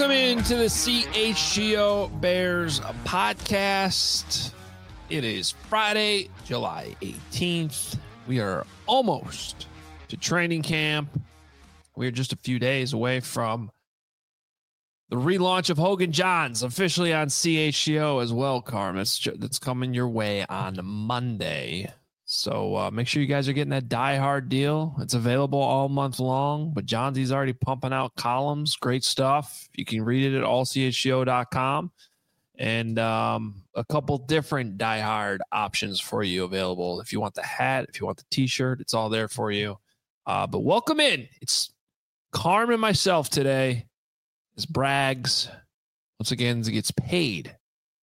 Welcome into the CHGO Bears podcast. It is Friday, July 18th. We are almost to training camp. We are just a few days away from the relaunch of Hogan Johns officially on CHGO as well, Carm. That's coming your way on Monday. So make sure you guys are getting that Die Hard deal. It's available all month long, but Johnsy's already pumping out columns. Great stuff. You can read it at allchgo.com. And a couple different Die Hard options for you available. If you want the hat, if you want the t-shirt, it's all there for you. But welcome in. It's Carm and myself today. It's Braggs. Once again, he gets paid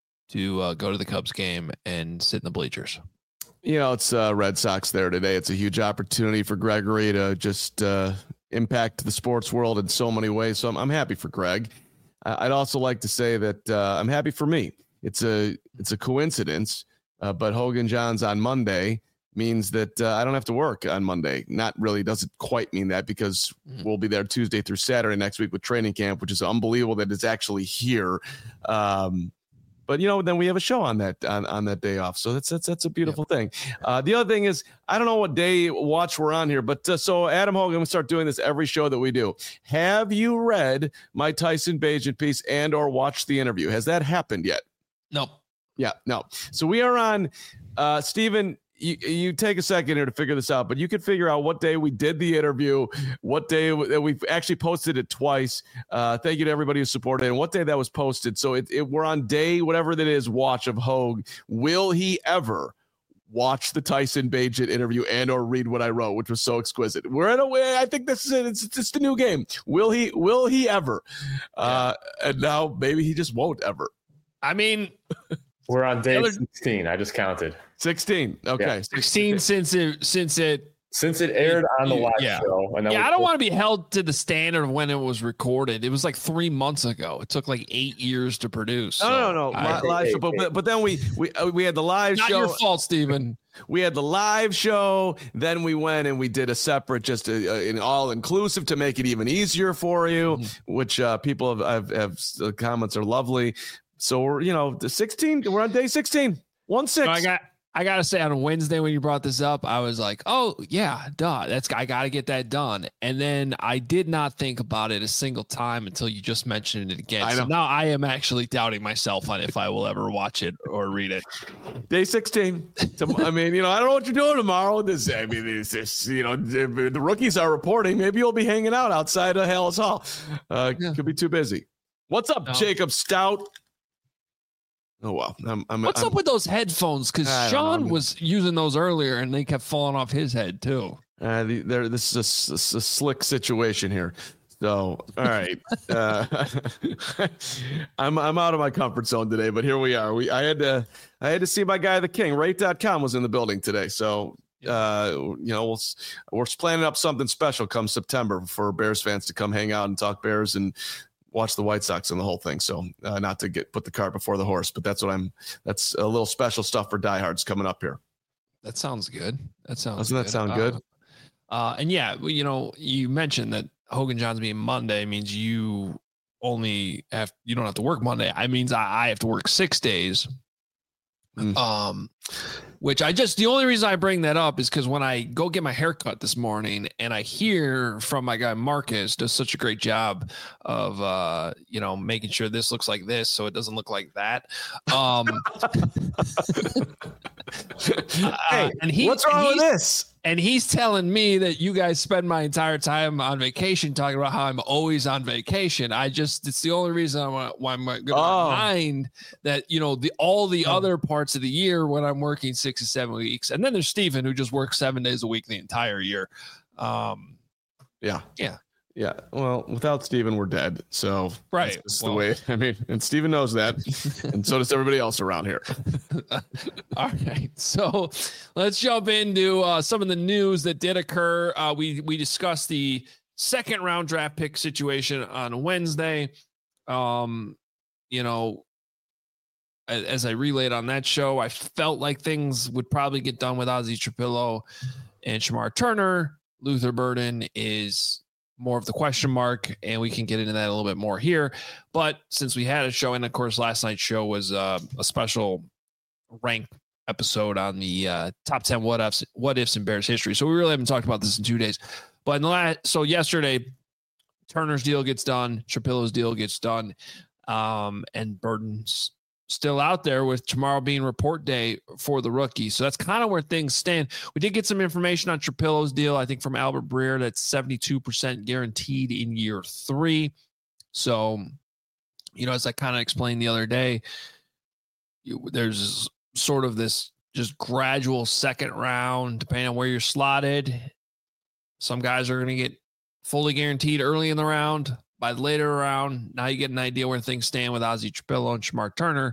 to go to the Cubs game and sit in the bleachers. You know, it's Red Sox there today. It's a huge opportunity for Gregory to just impact the sports world in so many ways. So I'm happy for Greg. I'd also like to say that I'm happy for me. It's a coincidence, but Hogan Johns on Monday means that I don't have to work on Monday. Not really, doesn't quite mean that because we'll be there Tuesday through Saturday next week with training camp, which is unbelievable that it's actually here. But, you know, then we have a show on that day off. So that's a beautiful thing. The other thing is, I don't know what day watch we're on here, but so Adam Hogan, we start doing this every show that we do. Have you read my Tyson Bagent piece and or watched the interview? Has that happened yet? No. Yeah, no. So we are on, Stephen, you take a second here to figure this out, but you can figure out what day we did the interview, what day we've actually posted it twice. Thank you to everybody who supported it, and what day that was posted. So we're on day, whatever that is, watch of Hogue. Will he ever watch the Tyson Bagent interview and or read what I wrote, which was so exquisite? We're in a way, I think this is it. It's just a new game. Will he ever? And now maybe he just won't ever. I mean, we're on day 16. I just counted. 16. Okay. Yeah. 16 since it aired on the live show. And I don't want to be held to the standard of when it was recorded. It was like 3 months ago. It took like 8 years to produce. No. Live show, but then we had the live show. Not your fault, Stephen. We had the live show. Then we went and we did a separate, just an all-inclusive to make it even easier for you, which people have the comments are lovely. So we're, the 16. We're on day 16. 1-6. So I gotta say, on Wednesday when you brought this up, I was like, oh yeah, duh. I gotta get that done. And then I did not think about it a single time until you just mentioned it again. So now I am actually doubting myself on if I will ever watch it or read it. Day 16. I mean, I don't know what you're doing tomorrow. The rookies are reporting. Maybe you'll be hanging out outside of Hallis Hall. Could be too busy. What's up, Jacob Stout? Oh, wow. What's up with those headphones? Because Sean was using those earlier, and they kept falling off his head, too. This is a slick situation here. So, all right. I'm out of my comfort zone today, but here we are. I had to see my guy, the King. Rate.com was in the building today. So, we're planning up something special come September for Bears fans to come hang out and talk Bears and watch the White Sox and the whole thing. So not to put the cart before the horse, but that's a little special stuff for diehards coming up here. That sounds good. Doesn't that sound good? And yeah, you mentioned that Hogan Johns being Monday means you don't have to work Monday. I means I have to work 6 days. Which the only reason I bring that up is because when I go get my haircut this morning and I hear from my guy Marcus does such a great job of making sure this looks like this so it doesn't look like that. Hey, what's wrong with this? And he's telling me that you guys spend my entire time on vacation talking about how I'm always on vacation. It's the only reason why I'm going to remind that, all the other parts of the year when I'm working 6 to 7 weeks. And then there's Stephen who just works 7 days a week the entire year. Yeah. Well, without Steven, we're dead. So that's the way. I mean, and Steven knows that. And so does everybody else around here. All right. So let's jump into some of the news that did occur. We discussed the second round draft pick situation on Wednesday. As I relayed on that show, I felt like things would probably get done with Ozzie Trapillo and Shamar Turner. Luther Burden is more of the question mark, and we can get into that a little bit more here. But since we had a show, and of course last night's show was a special rank episode on the top 10 what ifs in Bears history. So we really haven't talked about this in 2 days. But so yesterday, Turner's deal gets done, Trapillo's deal gets done, and Burton's still out there, with tomorrow being report day for the rookie. So that's kind of where things stand. We did get some information on Trapillo's deal, I think from Albert Breer, that's 72% guaranteed in year 3. So, as I kind of explained the other day, there's sort of this just gradual second round, depending on where you're slotted. Some guys are going to get fully guaranteed early in the round. By the later round, now you get an idea where things stand with Ozzie Trapillo and Shemar Turner.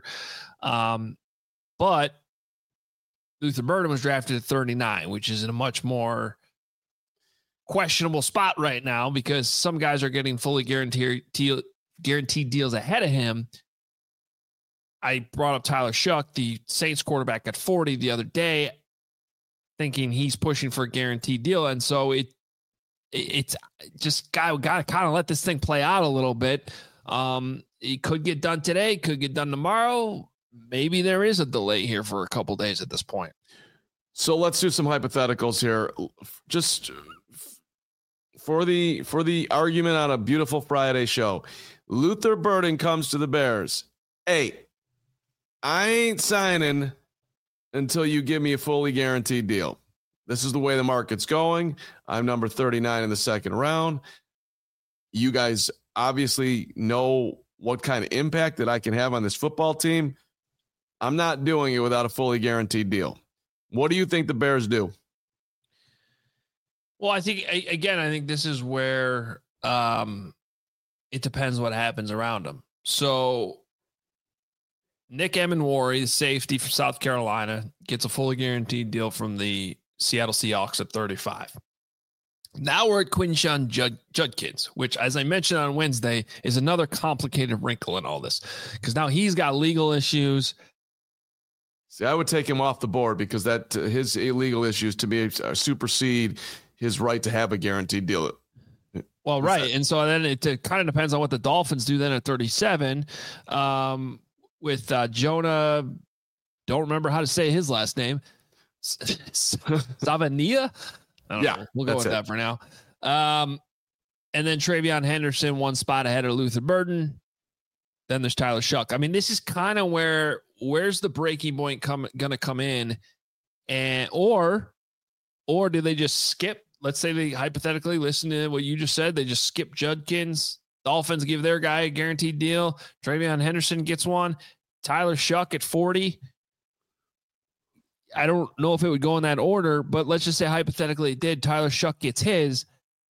But Luther Burden was drafted at 39, which is in a much more questionable spot right now, because some guys are getting fully guaranteed deals ahead of him. I brought up Tyler Shuck, the Saints quarterback, at 40 the other day, thinking he's pushing for a guaranteed deal. And so it's just got to kind of let this thing play out a little bit. It could get done today, could get done tomorrow. Maybe there is a delay here for a couple days at this point. So let's do some hypotheticals here. Just for the argument on a beautiful Friday show, Luther Burden comes to the Bears. Hey, I ain't signing until you give me a fully guaranteed deal. This is the way the market's going. I'm number 39 in the second round. You guys obviously know what kind of impact that I can have on this football team. I'm not doing it without a fully guaranteed deal. What do you think the Bears do? Well, I think this is where it depends what happens around them. So Nick Emenwari, the safety from South Carolina, gets a fully guaranteed deal from the Seattle Seahawks at 35. Now we're at Quinshon Judkins, which, as I mentioned on Wednesday, is another complicated wrinkle in all this, because now he's got legal issues. See, I would take him off the board, because that his illegal issues to me supersede his right to have a guaranteed deal. Well, right. And so then it kind of depends on what the Dolphins do then at 37 with Jonah. Don't remember how to say his last name. Savania? Yeah, we'll go with that for now. And then Travion Henderson, one spot ahead of Luther Burden. Then there's Tyler Shuck. I mean, this is kind of where's the breaking point going to come in, and or do they just skip? Let's say they hypothetically listen to what you just said. They just skip Judkins. Dolphins give their guy a guaranteed deal. Travion Henderson gets one. Tyler Shuck at 40. I don't know if it would go in that order, but let's just say hypothetically it did. Tyler Shuck gets his.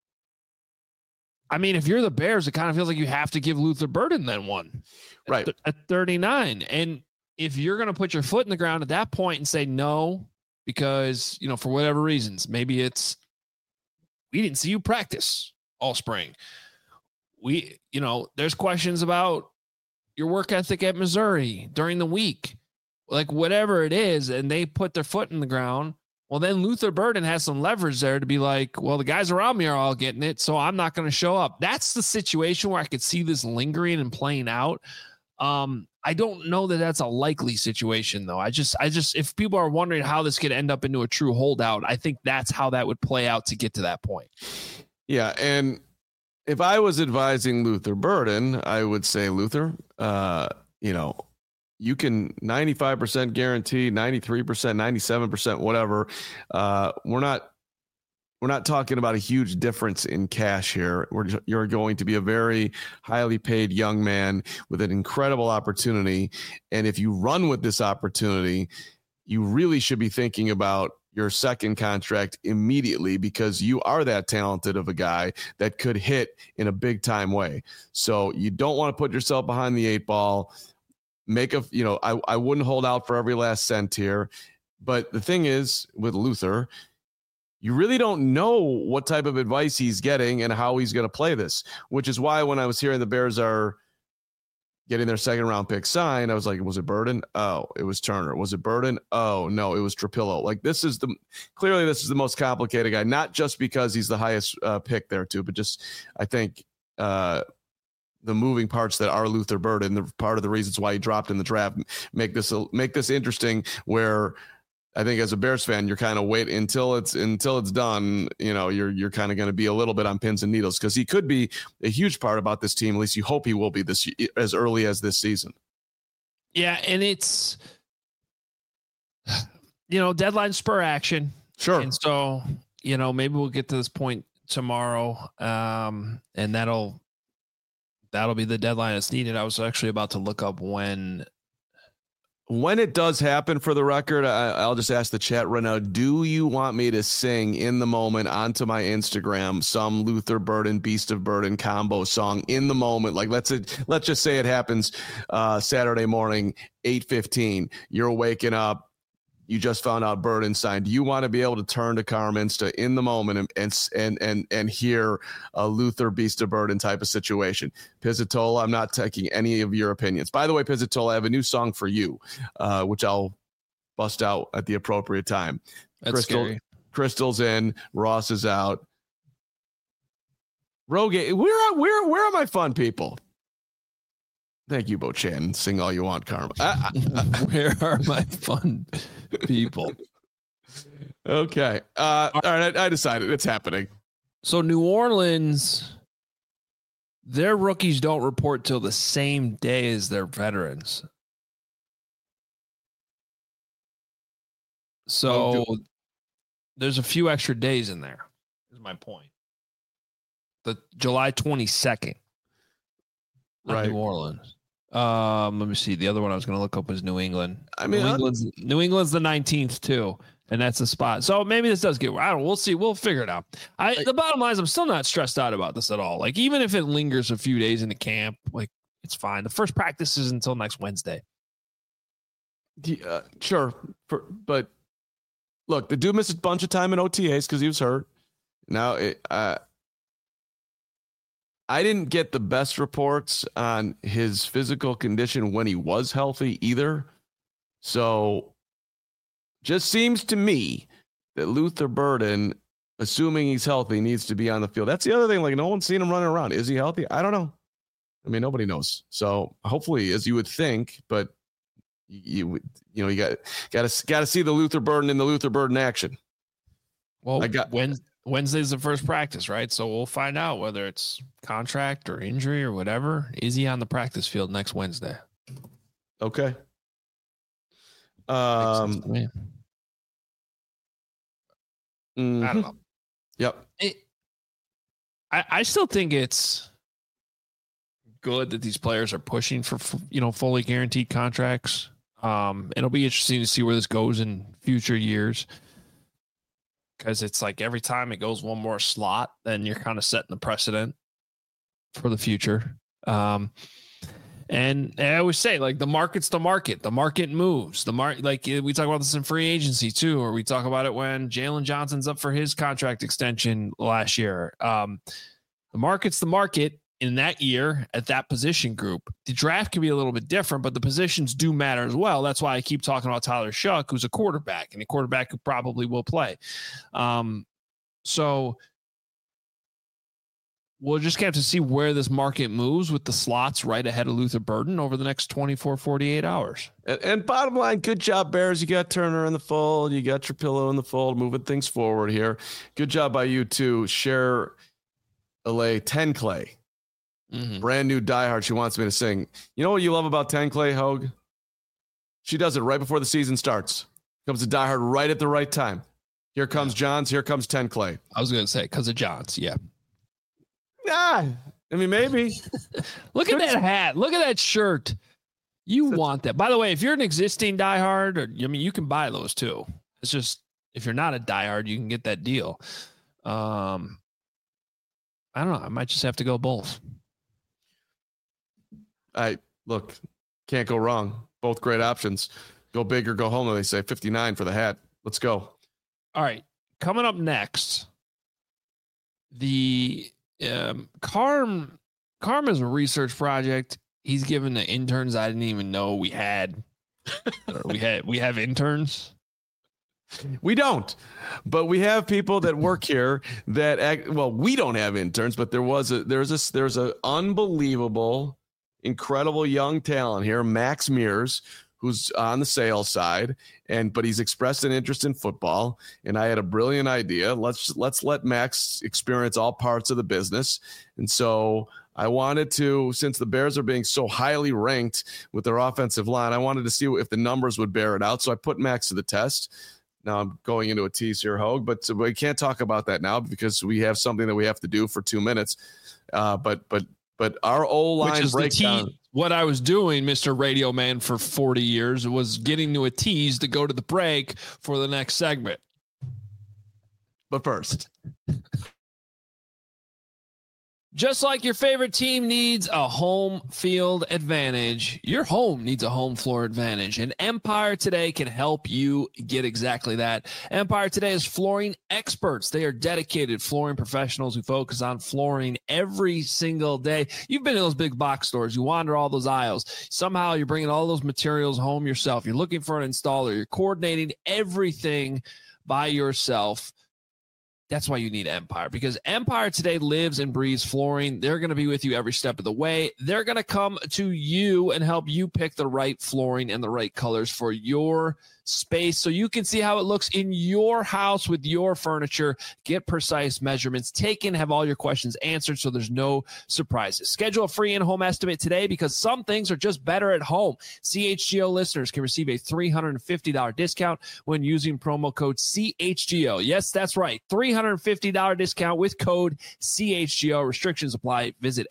I mean, if you're the Bears, it kind of feels like you have to give Luther Burden then one. Right. At 39. And if you're going to put your foot in the ground at that point and say no, because, for whatever reasons, maybe it's, we didn't see you practice all spring. There's questions about your work ethic at Missouri during the week. Like whatever it is, and they put their foot in the ground, well, then Luther Burden has some leverage there to be like, well, the guys around me are all getting it, so I'm not going to show up. That's the situation where I could see this lingering and playing out. I don't know that that's a likely situation, though. I just, if people are wondering how this could end up into a true holdout, I think that's how that would play out to get to that point. Yeah, and if I was advising Luther Burden, I would say, Luther, you can 95% guarantee, 93%, 97%, whatever. We're not talking about a huge difference in cash here. You're going to be a very highly paid young man with an incredible opportunity. And if you run with this opportunity, you really should be thinking about your second contract immediately, because you are that talented of a guy that could hit in a big time way. So you don't want to put yourself behind the 8 ball. I wouldn't hold out for every last cent here. But the thing is, with Luther, you really don't know what type of advice he's getting and how he's going to play this, which is why when I was hearing the Bears are getting their second round pick signed, I was like, was it Burden? Oh, it was Turner. Was it Burden? Oh, no, it was Trapillo. Like, this is the most complicated guy, not just because he's the highest pick there too, but just, I think, the moving parts that are Luther Burden, the part of the reasons why he dropped in the draft, make this interesting, where I think as a Bears fan, you're kind of wait until it's done. You know, you're kind of going to be a little bit on pins and needles, because he could be a huge part about this team. At least you hope he will be this as early as this season. Yeah, and it's, deadline spur action. Sure. And so, maybe we'll get to this point tomorrow, and that'll be the deadline that's needed. I was actually about to look up when it does happen. For the record, I'll just ask the chat right now, do you want me to sing in the moment onto my Instagram some Luther Burden, Beast of Burden combo song in the moment? Like, let's just say it happens Saturday morning, 8:15. You're waking up. You just found out Burden signed. Do you want to be able to turn to Carminsta in the moment and hear a Luther Beast of Burden type of situation? Pizzatola, I'm not taking any of your opinions. By the way, Pizzatola, I have a new song for you, which I'll bust out at the appropriate time. Crystal's in, Ross is out. Rogaine, where are my fun people? Thank you, Bo Chan. Sing all you want, Karma. Where are my fun people? Okay. All right. I decided it's happening. So New Orleans, their rookies don't report till the same day as their veterans. So there's a few extra days in there, is my point. The July 22nd. Right. New Orleans. Let me see. The other one I was going to look up was New England. I mean, New England's the 19th too, and that's the spot. So maybe this does get. I don't know. We'll see. We'll figure it out. The bottom line is, I'm still not stressed out about this at all. Like, even if it lingers a few days into camp, like, it's fine. The first practice is until next Wednesday. Sure, but look, the dude missed a bunch of time in OTAs because he was hurt. Now I didn't get the best reports on his physical condition when he was healthy either. So just seems to me that Luther Burden, assuming he's healthy, needs to be on the field. That's the other thing. Like, no one's seen him running around. Is he healthy? I don't know. I mean, nobody knows. So hopefully, as you would think, but you got to see the Luther Burden in the Luther Burden action. Well, Wednesday's the first practice, right? So we'll find out whether it's contract or injury or whatever. Is he on the practice field next Wednesday? Okay. I don't know. Yep. I still think it's good that these players are pushing for, fully guaranteed contracts. It'll be interesting to see where this goes in future years. Because it's like every time it goes one more slot, then you're kind of setting the precedent for the future. And I always say, like, the market's the market. The market moves. Like, we talk about this in free agency too, or we talk about it when Jalen Johnson's up for his contract extension last year. The market's the market in that year at that position group. The draft can be a little bit different, but the positions do matter as well. That's why I keep talking about Tyler Shuck, who's a quarterback, and a quarterback who probably will play. So we'll just have to see where this market moves with the slots right ahead of Luther Burden over the next 24, 48 hours. And bottom line, good job, Bears. You got Turner in the fold. You got Trapillo in the fold, moving things forward here. Good job by you too. Share LA 10 Clay. Mm-hmm. Brand new diehard. She wants me to sing. You know what you love about 10 Clay, Hogue? She does it right before the season starts. Comes to diehard right at the right time. Here comes Johns. Here comes 10 Clay. I was going to say, because of Johns. Yeah. I mean, maybe. Look at that hat. Look at that shirt. You want that. By the way, if you're an existing diehard, you can buy those too. It's just, if you're not a diehard, you can get that deal. I don't know. I might just have to go both. Look, can't go wrong. Both great options. Go big or go home, they say. 59 for the hat. Let's go. All right. Coming up next, the Carm is a research project. He's given the interns I didn't even know we had. we have interns. We don't, but we have people that work here that act, well, we don't have interns, but there's a unbelievable, incredible young talent here, Max Mears, who's on the sales side, but he's expressed an interest in football. And I had a brilliant idea. Let's let Max experience all parts of the business. And so I wanted to, since the Bears are being so highly ranked with their offensive line, I wanted to see if the numbers would bear it out. So I put Max to the test. Now I'm going into a tease here, Hogue, but we can't talk about that now because we have something that we have to do for 2 minutes. But our O-line breakdown. What I was doing, Mr. Radio Man, for 40 years was getting to a tease to go to the break for the next segment. But first. Just like your favorite team needs a home field advantage, your home needs a home floor advantage, and Empire Today can help you get exactly that. Empire Today is flooring experts. They are dedicated flooring professionals who focus on flooring every single day. You've been in those big box stores. You wander all those aisles. Somehow you're bringing all those materials home yourself. You're looking for an installer. You're coordinating everything by yourself. That's why you need Empire, because Empire Today lives and breathes flooring. They're going to be with you every step of the way. They're going to come to you and help you pick the right flooring and the right colors for your space so you can see how it looks in your house with your furniture. Get precise measurements taken, have all your questions answered so there's no surprises. Schedule a free in-home estimate today because some things are just better at home. CHGO listeners can receive a $350 discount when using promo code CHGO. Yes, that's right. $350 discount with code CHGO. Restrictions apply. Visit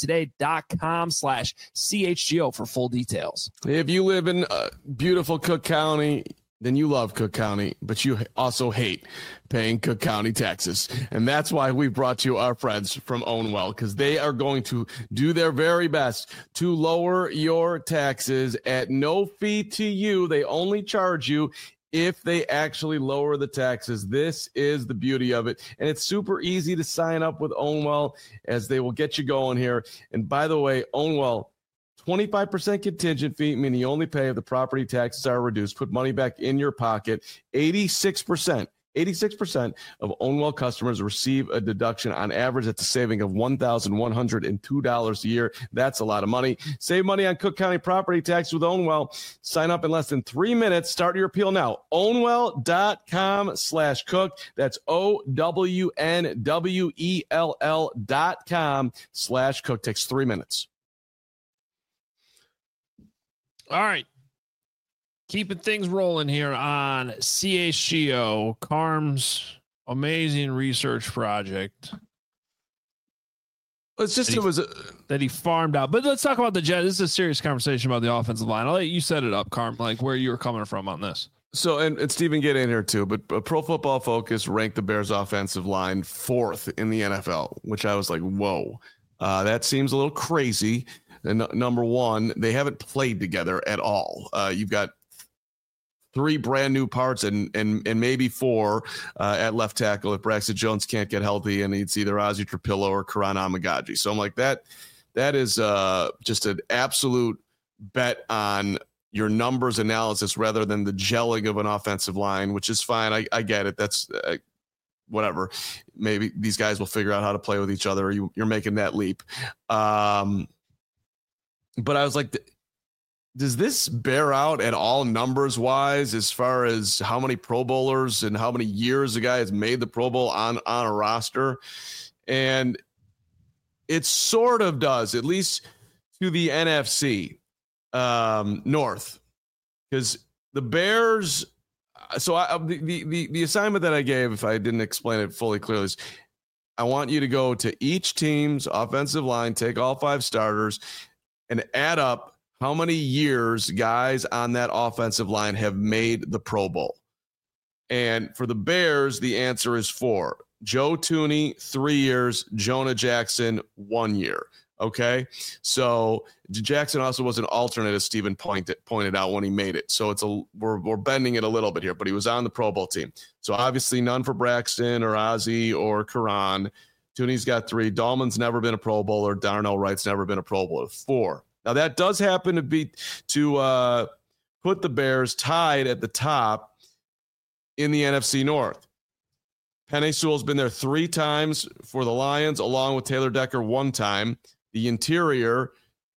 empiretoday.com/CHGO for full details. If you live in beautiful Cook County, then you love Cook County, but you also hate paying Cook County taxes. And that's why we brought you our friends from Ownwell, because they are going to do their very best to lower your taxes at no fee to you. They only charge you if they actually lower the taxes. This is the beauty of it. And it's super easy to sign up with Ownwell, as they will get you going here. And by the way, Ownwell, 25% contingent fee, meaning you only pay if the property taxes are reduced. Put money back in your pocket. 86% of Ownwell customers receive a deduction. On average, that's a saving of $1,102 a year. That's a lot of money. Save money on Cook County property tax with Ownwell. Sign up in less than 3 minutes. Start your appeal now. Ownwell.com/cook. That's OWNWELL.com/cook. Takes 3 minutes. All right. Keeping things rolling here on CHGO, Carm's amazing research project. It's just that he farmed out. But let's talk about the Jets. This is a serious conversation about the offensive line. I'll let you set it up, Carm, like where you were coming from on this. So, and Steven, get in here too, but Pro Football Focus ranked the Bears offensive line 4th in the NFL, which I was like, whoa, that seems a little crazy. And number one, they haven't played together at all. You've got 3 brand new parts and maybe 4 at left tackle if Braxton Jones can't get healthy, and it's either Ozzie Trapillo or Karan Amagaji. So I'm like, that is just an absolute bet on your numbers analysis rather than the gelling of an offensive line, which is fine. I get it. That's whatever. Maybe these guys will figure out how to play with each other. You're making that leap. But I was like, does this bear out at all numbers wise as far as how many Pro Bowlers and how many years a guy has made the Pro Bowl on a roster? And it sort of does, at least to the NFC North, because the Bears. So the assignment that I gave, if I didn't explain it fully clearly, is I want you to go to each team's offensive line, take all 5 starters, and add up how many years guys on that offensive line have made the Pro Bowl. And for the Bears, the answer is 4. Joe Thuney, 3 years. Jonah Jackson, 1 year. Okay. So Jackson also was an alternate, as Steven pointed out, when he made it. So we're bending it a little bit here, but he was on the Pro Bowl team. So obviously none for Braxton or Ozzie or Karan. Thuney's got 3. Dahlman's never been a Pro Bowler. Darnell Wright's never been a Pro Bowler. 4. Now that does happen to put the Bears tied at the top in the NFC North. Penei Sewell's been there 3 times for the Lions, along with Taylor Decker 1 time. The interior,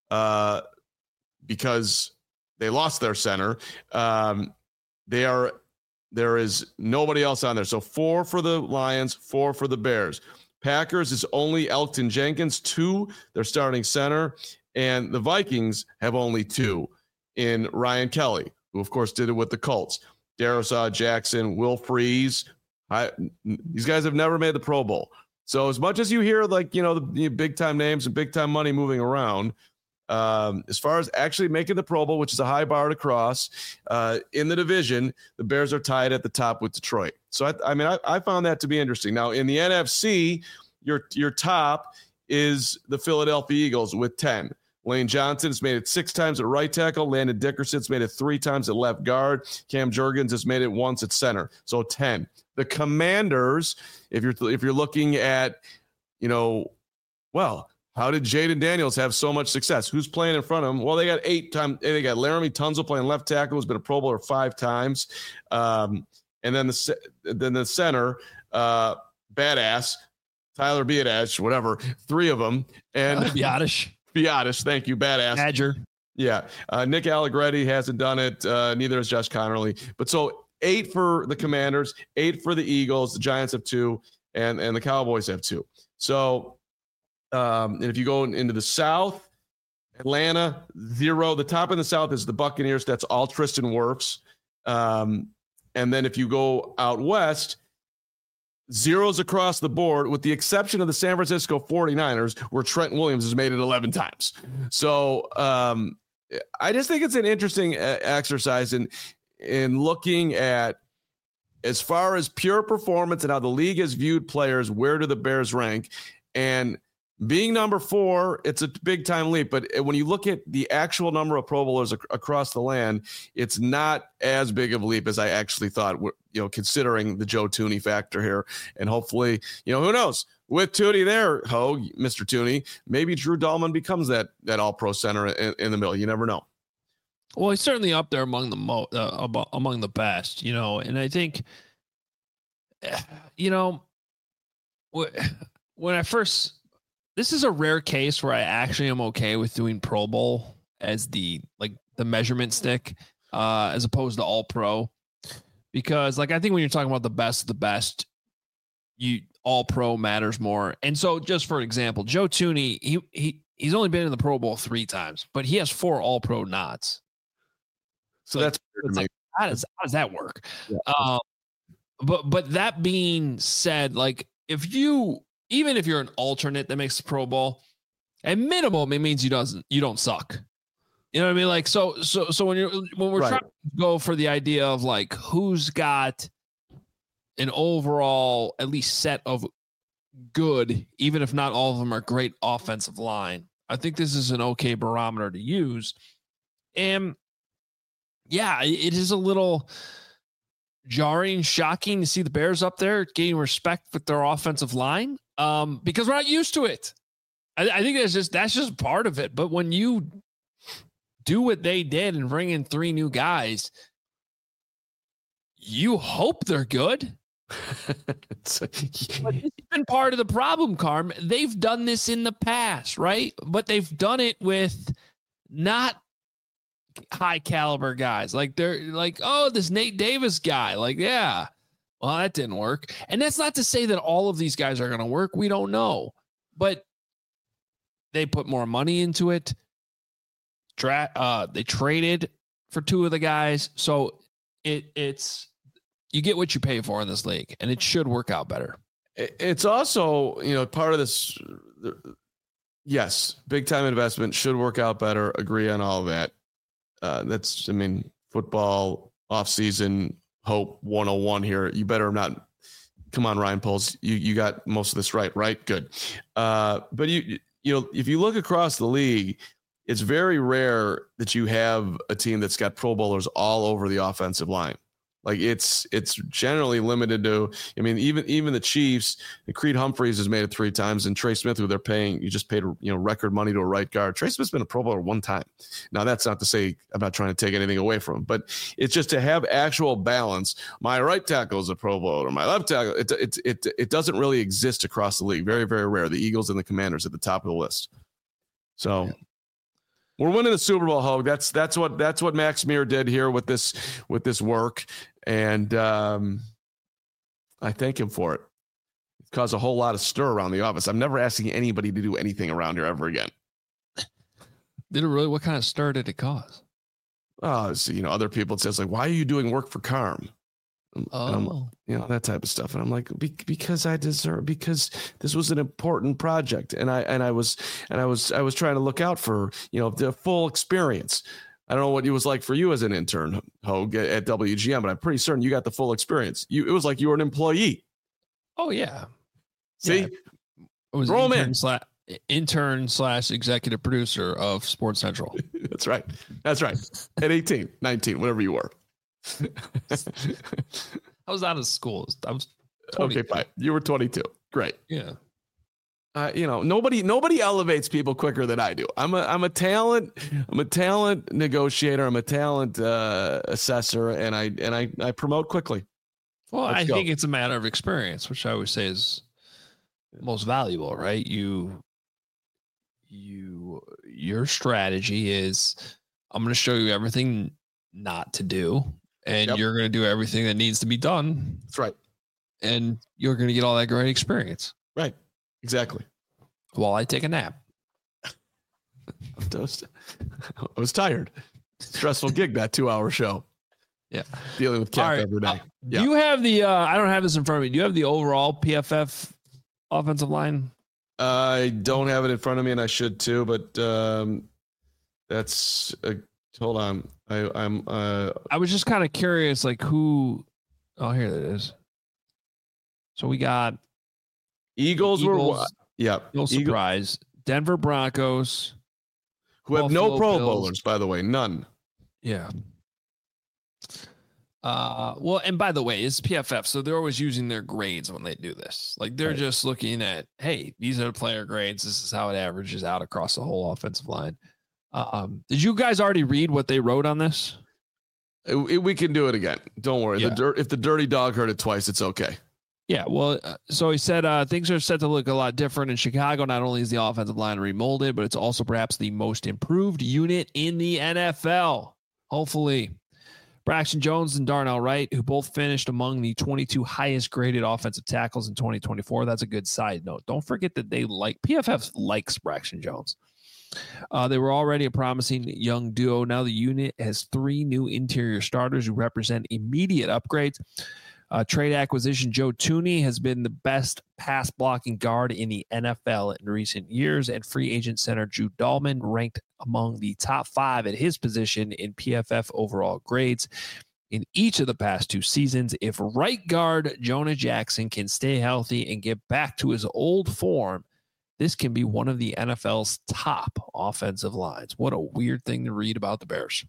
because they lost their center, there is nobody else on there. So 4 for the Lions, 4 for the Bears. Packers is only Elgton Jenkins, 2, their starting center, and the Vikings have only 2 in Ryan Kelly, who of course did it with the Colts. Darisaw Jackson, Will Freeze. These guys have never made the Pro Bowl. So as much as you hear the big time names and big time money moving around, as far as actually making the Pro Bowl, which is a high bar to cross, in the division, the Bears are tied at the top with Detroit. So I found that to be interesting. Now in the NFC, your top is the Philadelphia Eagles with 10. Lane Johnson's made it 6 times at right tackle. Landon Dickerson's made it 3 times at left guard. Cam Jurgens has made it once at center. So 10. The Commanders, if you're looking at, how did Jaden Daniels have so much success? Who's playing in front of him? Well, they got 8 times. They got Laramie Tunsil playing left tackle, who's been a Pro Bowler 5 times. And then the center, badass, Tyler Biadasz, whatever, 3 of them. And Biadasz, thank you, badass. Badger. Yeah. Nick Allegretti hasn't done it. Neither has Josh Connerly. But so 8 for the Commanders, 8 for the Eagles. The Giants have 2, and the Cowboys have 2. So, and if you go into the South, Atlanta, 0. The top in the South is the Buccaneers. That's all Tristan Wirfs. And then if you go out West, 0s across the board, with the exception of the San Francisco 49ers, where Trent Williams has made it 11 times. So I just think it's an interesting exercise in looking at, as far as pure performance and how the league has viewed players, where do the Bears rank? And being number 4, it's a big time leap. But when you look at the actual number of Pro Bowlers across the land, it's not as big of a leap as I actually thought, considering the Joe Thuney factor here. And hopefully, who knows? With Thuney there, Mr. Thuney, maybe Drew Dahlman becomes that all-pro center in the middle. You never know. Well, he's certainly up there among the best, and I think, when I first, this is a rare case where I actually am okay with doing Pro Bowl as the measurement stick, as opposed to all pro, because I think when you're talking about the best of the best, all pro matters more. And so just for example, Joe Thuney, he's only been in the Pro Bowl 3 times, but he has 4 all pro nods. So that's how does that work? Yeah. But that being said, even if you're an alternate that makes the Pro Bowl, at minimum, it means you don't suck. You know what I mean? So when we're trying to go for the idea of who's got an overall at least set of good, even if not all of them are great offensive line, I think this is an okay barometer to use. And yeah, it is a little jarring, shocking to see the Bears up there gaining respect with their offensive line, because we're not used to it. I think that's just part of it. But when you do what they did and bring in 3 new guys, you hope they're good. But it's been part of the problem, Carm. They've done this in the past, right? But they've done it with not high caliber guys. They're this Nate Davis guy. Yeah, well, that didn't work. And that's not to say that all of these guys are going to work. We don't know, but they put more money into it. They traded for 2 of the guys. So it's, you get what you pay for in this league, and it should work out better. It's also, part of this. Yes, big time investment should work out better. Agree on all of that. That's, football offseason hope 101 here. You better not. Come on, Ryan Poles. You got most of this right? Good. But if you look across the league, it's very rare that you have a team that's got Pro Bowlers all over the offensive line. Like it's generally limited to, I mean, even the Chiefs, Creed Humphreys has made it 3 times, and Trey Smith, who they're paying, you just paid, record money to a right guard. Trey Smith's been a Pro Bowler 1 time. Now that's not to say I'm not trying to take anything away from him, but it's just to have actual balance. My right tackle is a Pro Bowler, my left tackle, it doesn't really exist across the league. Very, very rare. The Eagles and the Commanders at the top of the list. So yeah. We're winning the Super Bowl, Hogue. That's what Max Meir did here with this work, and I thank him for it. It caused a whole lot of stir around the office. I'm never asking anybody to do anything around here ever again. Did it really? What kind of stir did it cause? So, other people, it says like, why are you doing work for Carm? That type of stuff. And I'm like, because I deserve, because this was an important project. And I was trying to look out for, the full experience. I don't know what it was like for you as an intern, Hogue, at WGN, but I'm pretty certain you got the full experience. It was like you were an employee. Oh yeah. See, it was intern /executive producer of Sports Central. That's right. At 18, 19, whatever you were. I was out of school. I was 22. Okay, fine. You were 22. Great. Yeah. Nobody elevates people quicker than I do. I'm a talent negotiator. I'm a talent assessor, and I promote quickly. Well, I think it's a matter of experience, which I always say is most valuable, right? Your strategy is, I'm going to show you everything not to do, and you're going to do everything that needs to be done. That's right. And you're going to get all that great experience. Right. Exactly. While I take a nap. I was tired. Stressful gig, that 2-hour show. Yeah. Dealing with Cap every day. Do you have the, I don't have this in front of me. Do you have the overall PFF offensive line? I don't have it in front of me, and I should too, but that's hold on. I was just kind of curious, like who. Oh, here it is. So we got Eagles were, yeah, no surprise. Denver Broncos, who have no Pro Bowlers, by the way, none. Yeah. Well, and by the way, it's PFF, so they're always using their grades when they do this. Like they're just looking at, hey, these are the player grades. This is how it averages out across the whole offensive line. Did you guys already read what they wrote on this? We can do it again. Don't worry. Yeah. If the dirty dog heard it twice, it's okay. Yeah, well, so he said things are set to look a lot different in Chicago. Not only is the offensive line remolded, but it's also perhaps the most improved unit in the NFL. Hopefully. Braxton Jones and Darnell Wright, who both finished among the 22 highest graded offensive tackles in 2024. That's a good side note. Don't forget that PFF likes Braxton Jones. They were already a promising young duo. Now the unit has 3 new interior starters who represent immediate upgrades. Trade acquisition Joe Thuney has been the best pass blocking guard in the NFL in recent years, and free agent center Jude Dahlman ranked among the top 5 at his position in PFF overall grades in each of the past 2 seasons. If right guard Jonah Jackson can stay healthy and get back to his old form, this can be one of the NFL's top offensive lines. What a weird thing to read about the Bears.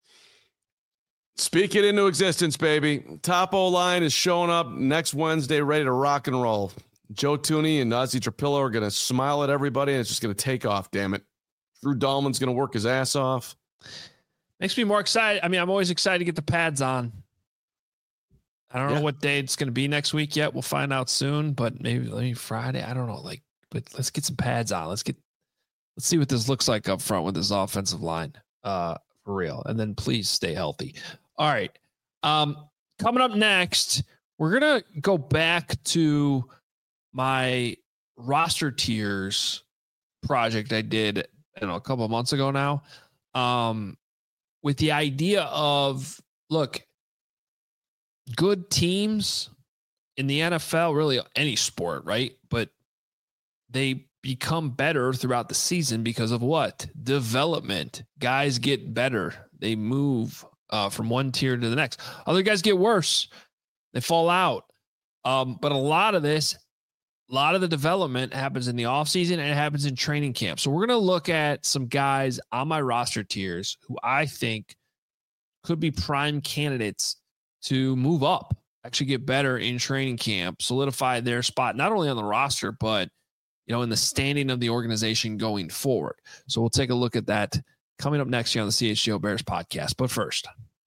Speak it into existence, baby. Top O-line is showing up next Wednesday, ready to rock and roll. Joe Thuney and Ozzie Trapillo are going to smile at everybody, and it's just going to take off, damn it. Drew Dahlman's going to work his ass off. Makes me more excited. I mean, I'm always excited to get the pads on. I don't know what day it's going to be next week yet. We'll find out soon, but maybe Friday. I don't know. But let's get some pads on. Let's see what this looks like up front with this offensive line. For real. And then please stay healthy. All right. Coming up next, we're going to go back to my roster tiers project I did, a couple of months ago now, with the idea of, look, good teams in the NFL, really any sport, right? But they become better throughout the season because of what? Development. Guys get better. They move from one tier to the next. Other guys get worse. They fall out. But a lot of the development happens in the offseason and it happens in training camp. So we're going to look at some guys on my roster tiers who I think could be prime candidates to move up, actually get better in training camp, solidify their spot, not only on the roster, but, in the standing of the organization going forward. So we'll take a look at that coming up next year on the CHGO Bears podcast. But first,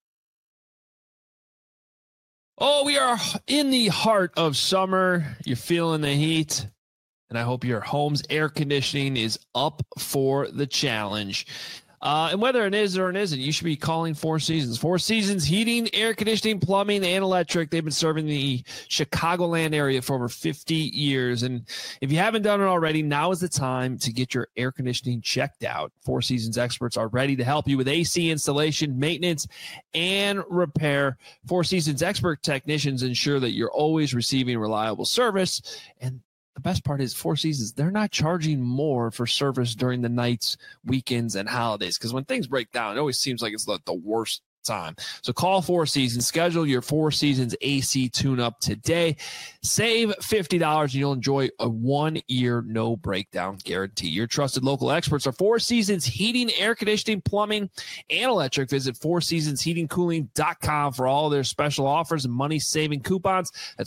we are in the heart of summer. You're feeling the heat, and I hope your home's air conditioning is up for the challenge. And whether it is or it isn't, you should be calling Four Seasons. Four Seasons Heating, Air Conditioning, Plumbing, and Electric. They've been serving the Chicagoland area for over 50 years. And if you haven't done it already, now is the time to get your air conditioning checked out. Four Seasons experts are ready to help you with AC installation, maintenance, and repair. Four Seasons expert technicians ensure that you're always receiving reliable service. And the best part is Four Seasons, they're not charging more for service during the nights, weekends, and holidays. Because when things break down, it always seems like it's the worst time. So call Four Seasons, schedule your Four Seasons AC tune-up today. Save $50 and you'll enjoy a 1-year no breakdown guarantee. Your trusted local experts are Four Seasons Heating, Air Conditioning, Plumbing, and Electric. Visit fourseasonsheatingcooling.com for all their special offers and money-saving coupons. That's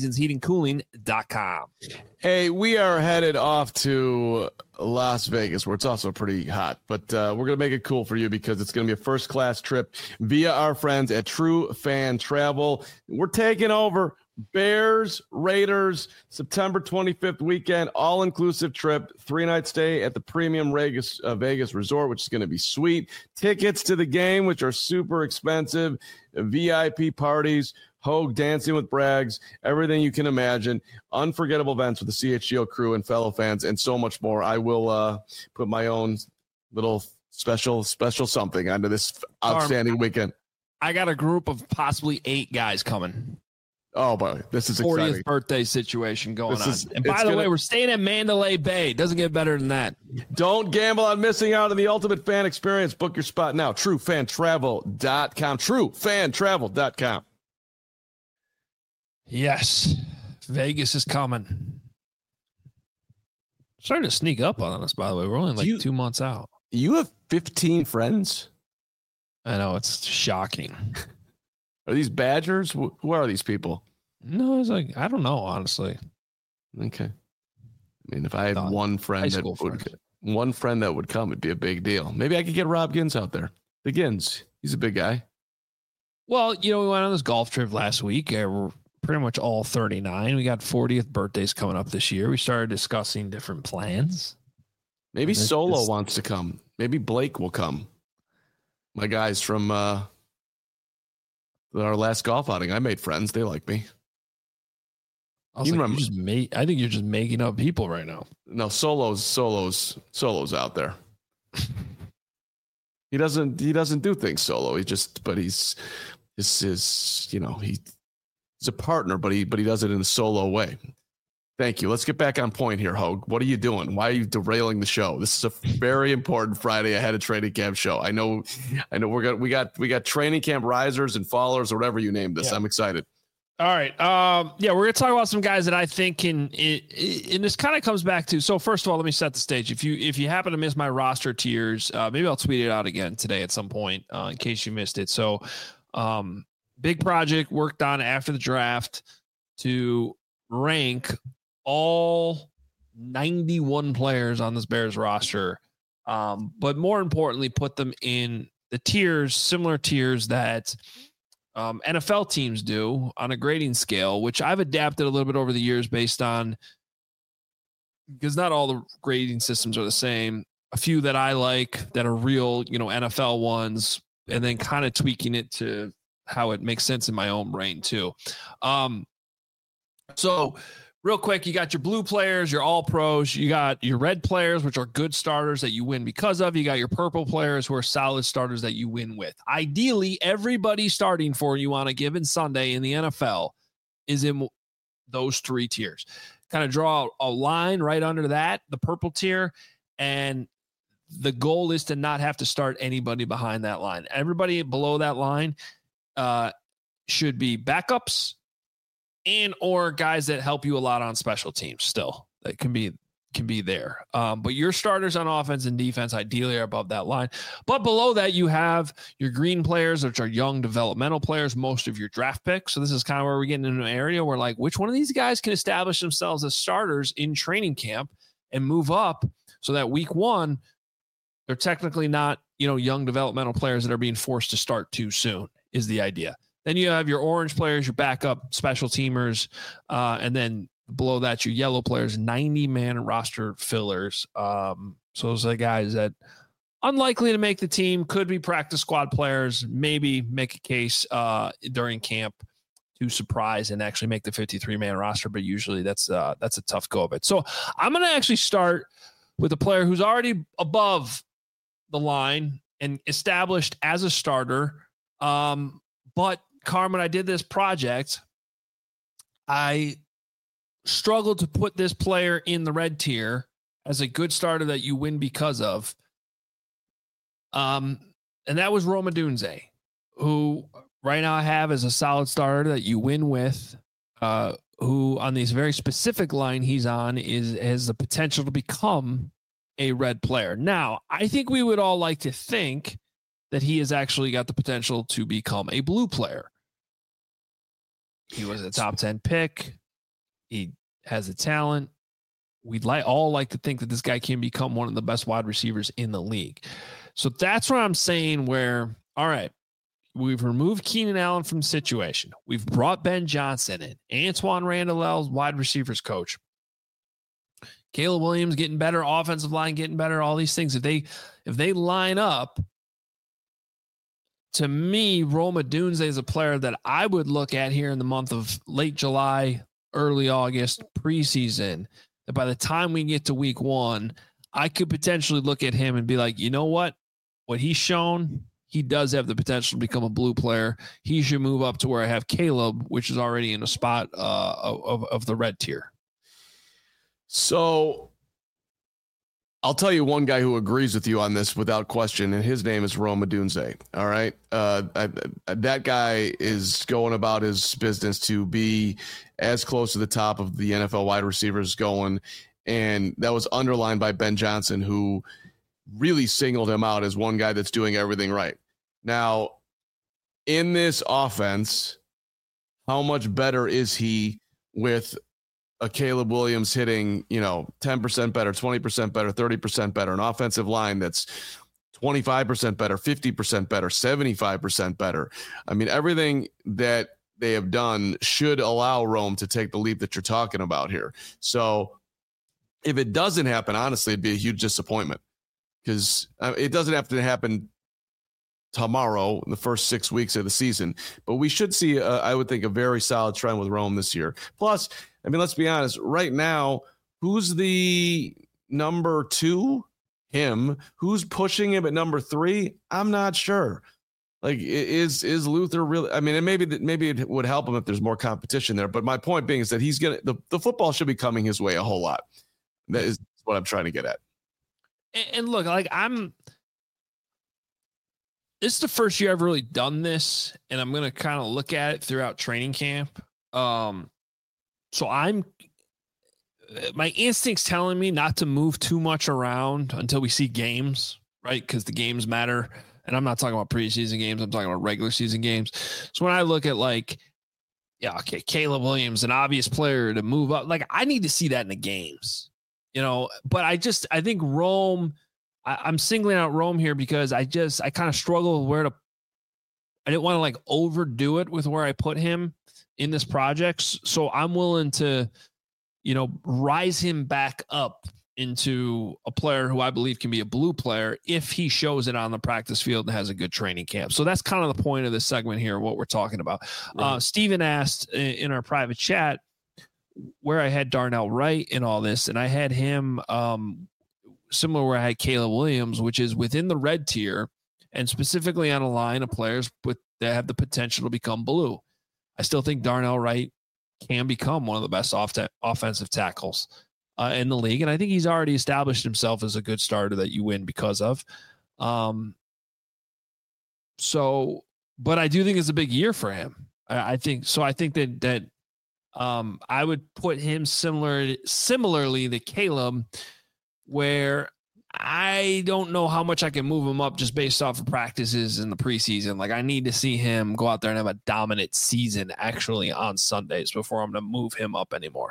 fourseasonsheatingcooling.com. Hey, we are headed off to Las Vegas, where it's also pretty hot, but we're going to make it cool for you because it's going to be a first-class trip via our friends at True Fan Travel. We're taking over Bears, Raiders, September 25th weekend, all-inclusive trip, 3-night stay at the Premium Vegas Resort, which is going to be sweet. Tickets to the game, which are super expensive, VIP parties, Hogue dancing with Braggs, everything you can imagine, unforgettable events with the CHGO crew and fellow fans, and so much more. I will put my own little special something onto this outstanding weekend. I got a group of possibly 8 guys coming. Oh, boy, this is 40th exciting. Birthday situation going on. And by the way, we're staying at Mandalay Bay. Doesn't get better than that. Don't gamble on missing out on the ultimate fan experience. Book your spot now. TrueFanTravel.com. TrueFanTravel.com. Yes, Vegas is coming. Starting to sneak up on us, by the way. We're only 2 months out. You have 15 friends? I know, it's shocking. Are these Badgers? Who are these people? No, it's I don't know, honestly. Okay. I mean, if I had one friend that would come, it'd be a big deal. Maybe I could get Rob Gins out there. The Gins, he's a big guy. Well, we went on this golf trip last week. We're pretty much all 39. We got 40th birthdays coming up this year. We started discussing different plans. Maybe Solo wants to come. Maybe Blake will come. My guys from our last golf outing, I made friends. They like me. I think you're just making up people right now. No, Solo's out there. He doesn't do things solo. He's a partner, but he does it in a solo way. Thank you. Let's get back on point here, Hogue. What are you doing? Why are you derailing the show? This is a very important Friday ahead of training camp show. I know we got training camp risers and fallers, or whatever you named this. Yeah. I'm excited. All right. We're going to talk about some guys that I think and this kind of comes back to, so first of all, let me set the stage. If you happen to miss my roster tiers, maybe I'll tweet it out again today at some point, in case you missed it. So, big project worked on after the draft to rank all 91 players on this Bears roster. But more importantly, put them in the tiers, similar tiers that NFL teams do on a grading scale, which I've adapted a little bit over the years based on, because not all the grading systems are the same. A few that I like that are real, NFL ones, and then kind of tweaking it to how it makes sense in my own brain too. So real quick, you got your blue players, your all pros, you got your red players, which are good starters that you win because of. You got your purple players who are solid starters that you win with. Ideally, everybody starting for you on a given Sunday in the NFL is in those 3 tiers. Kind of draw a line right under that, the purple tier, and the goal is to not have to start anybody behind that line. Everybody below that line should be backups and or guys that help you a lot on special teams still. That can be can be there. But your starters on offense and defense ideally are above that line. But below that, you have your green players, which are young developmental players, most of your draft picks. So this is kind of where we're getting into an area where, like, which one of these guys can establish themselves as starters in training camp and move up so that week one, they're technically not, young developmental players that are being forced to start too soon is the idea. Then you have your orange players, your backup special teamers, and then below that, your yellow players, 90-man roster fillers. So those are the guys that unlikely to make the team, could be practice squad players, maybe make a case during camp to surprise and actually make the 53-man roster. But usually that's a tough go of it. So I'm going to actually start with a player who's already above the line and established as a starter. But Carmen, I did this project. I struggled to put this player in the red tier as a good starter that you win because of. And that was Rome Odunze, who right now I have as a solid starter that you win with, who on this very specific line he's on has the potential to become a red player. Now, I think we would all like to think that he has actually got the potential to become a blue player. He was a top 10 pick. He has a talent. We'd all like to think that this guy can become one of the best wide receivers in the league. So that's what I'm saying where, all right, we've removed Keenan Allen from the situation. We've brought Ben Johnson in. Antoine Randall, wide receivers coach. Caleb Williams getting better, offensive line getting better, all these things. If they line up, to me, Rome Odunze is a player that I would look at here in the month of late July, early August, preseason, that by the time we get to week one, I could potentially look at him and be like, you know what he's shown, he does have the potential to become a blue player. He should move up to where I have Caleb, which is already in a spot of the red tier. So I'll tell you one guy who agrees with you on this without question, and his name is Rome Odunze. All right. That guy is going about his business to be as close to the top of the NFL wide receivers going. And that was underlined by Ben Johnson, who really singled him out as one guy that's doing everything right. Now, in this offense, how much better is he with a Caleb Williams hitting, 10% better, 20% better, 30% better, an offensive line that's 25% better, 50% better, 75% better. I mean, everything that they have done should allow Rome to take the leap that you're talking about here. So if it doesn't happen, honestly, it'd be a huge disappointment, because it doesn't have to happen tomorrow in the first 6 weeks of the season, but we should see, I would think, a very solid trend with Rome this year. Plus, I mean, let's be honest, right now, who's the number 2? Him. Who's pushing him at number 3? I'm not sure. Like, is Luther really? I mean, and maybe it would help him if there's more competition there. But my point being is that he's gonna the football should be coming his way a whole lot. That is what I'm trying to get at. And look, like this is the first year I've really done this, and I'm gonna kind of look at it throughout training camp. So my instinct's telling me not to move too much around until we see games, right? Because the games matter. And I'm not talking about preseason games. I'm talking about regular season games. So when I look at Caleb Williams, an obvious player to move up, like I need to see that in the games, but I think Rome, I'm singling out Rome here because I kind of struggle with I didn't want to overdo it with where I put him in this project. So I'm willing to, rise him back up into a player who I believe can be a blue player if he shows it on the practice field and has a good training camp. So that's kind of the point of this segment here, what we're talking about. Right. Steven asked in our private chat where I had Darnell Wright in all this, and I had him similar where I had Caleb Williams, which is within the red tier and specifically on a line of players that have the potential to become blue. I still think Darnell Wright can become one of the best offensive tackles in the league. And I think he's already established himself as a good starter that you win because of. But I do think it's a big year for him. I think that I would put him similarly to Caleb, where I don't know how much I can move him up just based off of practices in the preseason. Like, I need to see him go out there and have a dominant season actually on Sundays before I'm going to move him up anymore.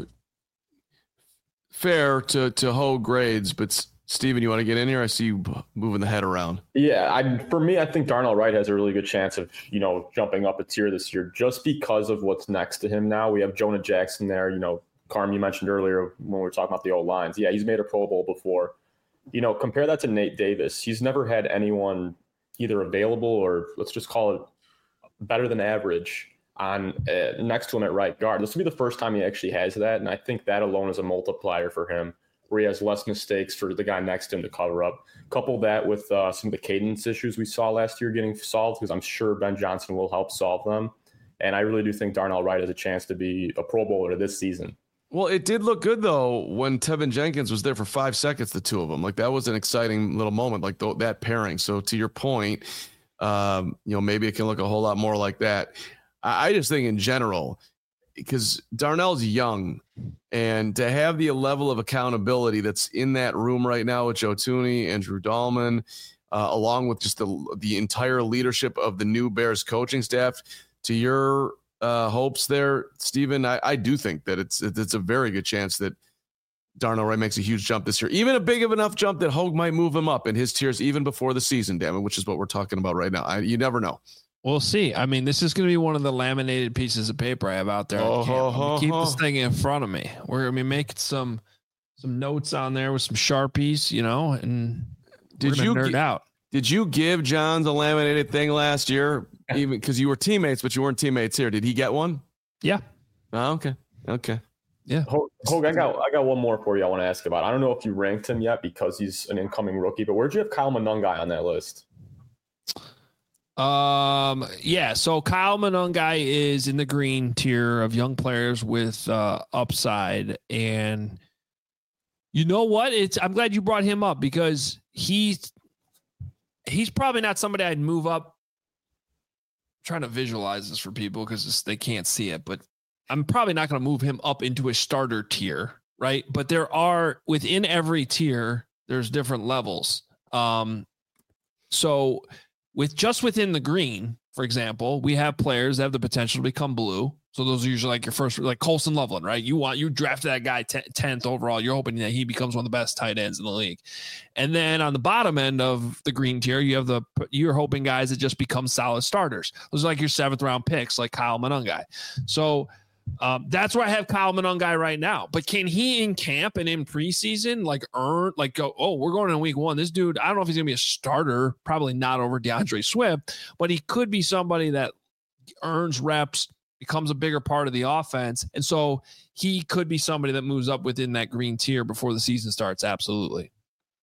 Fair to hoe grades, but Steven, you want to get in here? I see you moving the head around. Yeah, for me, I think Darnell Wright has a really good chance of, jumping up a tier this year just because of what's next to him now. We have Jonah Jackson there. Carm, you mentioned earlier when we were talking about the old lines. Yeah, he's made a Pro Bowl before. Compare that to Nate Davis. He's never had anyone either available or let's just call it better than average on next to him at right guard. This will be the first time he actually has that, and I think that alone is a multiplier for him, where he has less mistakes for the guy next to him to cover up. Couple that with some of the cadence issues we saw last year getting solved, because I'm sure Ben Johnson will help solve them. And I really do think Darnell Wright has a chance to be a Pro Bowler this season. Well, it did look good, though, when Tevin Jenkins was there for 5 seconds, the two of them. Like, that was an exciting little moment, like that pairing. So to your point, maybe it can look a whole lot more like that. I just think in general, because Darnell's young, and to have the level of accountability that's in that room right now with Joe Thuney, Andrew Dahlman, along with just the entire leadership of the new Bears coaching staff, to your hopes there, Steven, I do think that it's a very good chance that Darnell Wright makes a huge jump this year, even a big of enough jump that Hogue might move him up in his tiers even before the season, damn it, which is what we're talking about right now. You never know. We'll see. I mean, this is going to be one of the laminated pieces of paper I have out there. Keep this thing in front of me. We're going to be making some notes on there with some Sharpies, and did you nerd out? Did you give Johns a laminated thing last year? Even because you were teammates, but you weren't teammates here. Did he get one? Yeah. Oh, okay. Yeah. Hogue, I got one more for you I want to ask about. I don't know if you ranked him yet because he's an incoming rookie, but where'd you have Kyle Monangai on that list? Yeah. So Kyle Monangai is in the green tier of young players with upside, and you know what? I'm glad you brought him up because he's probably not somebody I'd move up. I'm trying to visualize this for people because they can't see it, but I'm probably not going to move him up into a starter tier, right? But there are within every tier, there's different levels. So within the green, for example, we have players that have the potential to become blue. So those are usually like your first, like Colson Loveland, right? You drafted that guy 10th overall. You're hoping that he becomes one of the best tight ends in the league. And then on the bottom end of the green tier, you're hoping guys that just become solid starters. Those are like your 7th round picks, like Kyle Monangai. So that's where I have Kyle Monangai right now. But can he in camp and in preseason we're going in week 1. This dude, I don't know if he's going to be a starter, probably not over DeAndre Swift, but he could be somebody that earns reps, becomes a bigger part of the offense. And so he could be somebody that moves up within that green tier before the season starts. Absolutely.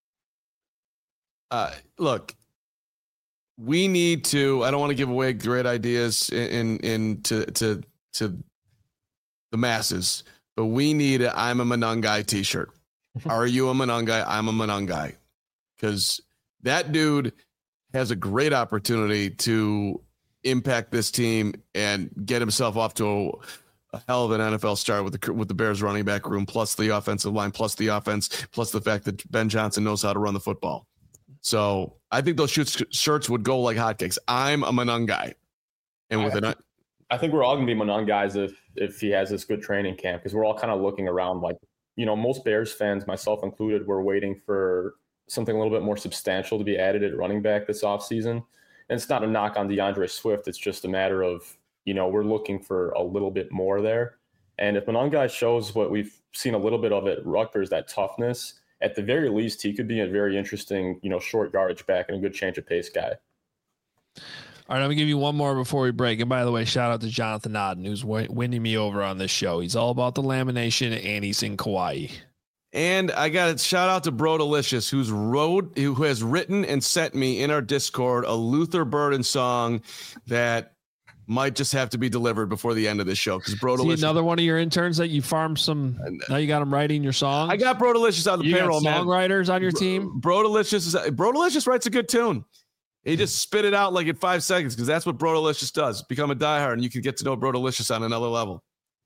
Look, we need to, I don't want to give away great ideas to the masses, but we need a I'm a Monangai t-shirt. Are you a Monangai? I'm a Monangai. Because that dude has a great opportunity to impact this team and get himself off to a hell of an NFL start with the Bears running back room, plus the offensive line, plus the offense, plus the fact that Ben Johnson knows how to run the football. So I think those shirts would go like hotcakes. I'm a Monangai. And I think we're all going to be Monangais if he has this good training camp, because we're all kind of looking around like, most Bears fans, myself included, were waiting for something a little bit more substantial to be added at running back this offseason. And it's not a knock on DeAndre Swift. It's just a matter of, we're looking for a little bit more there. And if Monangai shows what we've seen a little bit of at Rutgers, that toughness, at the very least, he could be a very interesting, short yardage back and a good change of pace guy. All right, I'm going to give you one more before we break. And by the way, shout out to Jonathan Odden, who's winning me over on this show. He's all about the lamination, and he's in Kauai. And I got to shout out to Bro Delicious, who has written and sent me in our Discord a Luther Burden song that might just have to be delivered before the end of this show. Because Bro Delicious, another one of your interns that you farmed some. Now you got him writing your songs. I got Bro Delicious on the payroll. Got songwriters on your team. Bro Delicious writes a good tune. He just spit it out like in 5 seconds because that's what Bro Delicious does. Become a diehard, and you can get to know Bro Delicious on another level.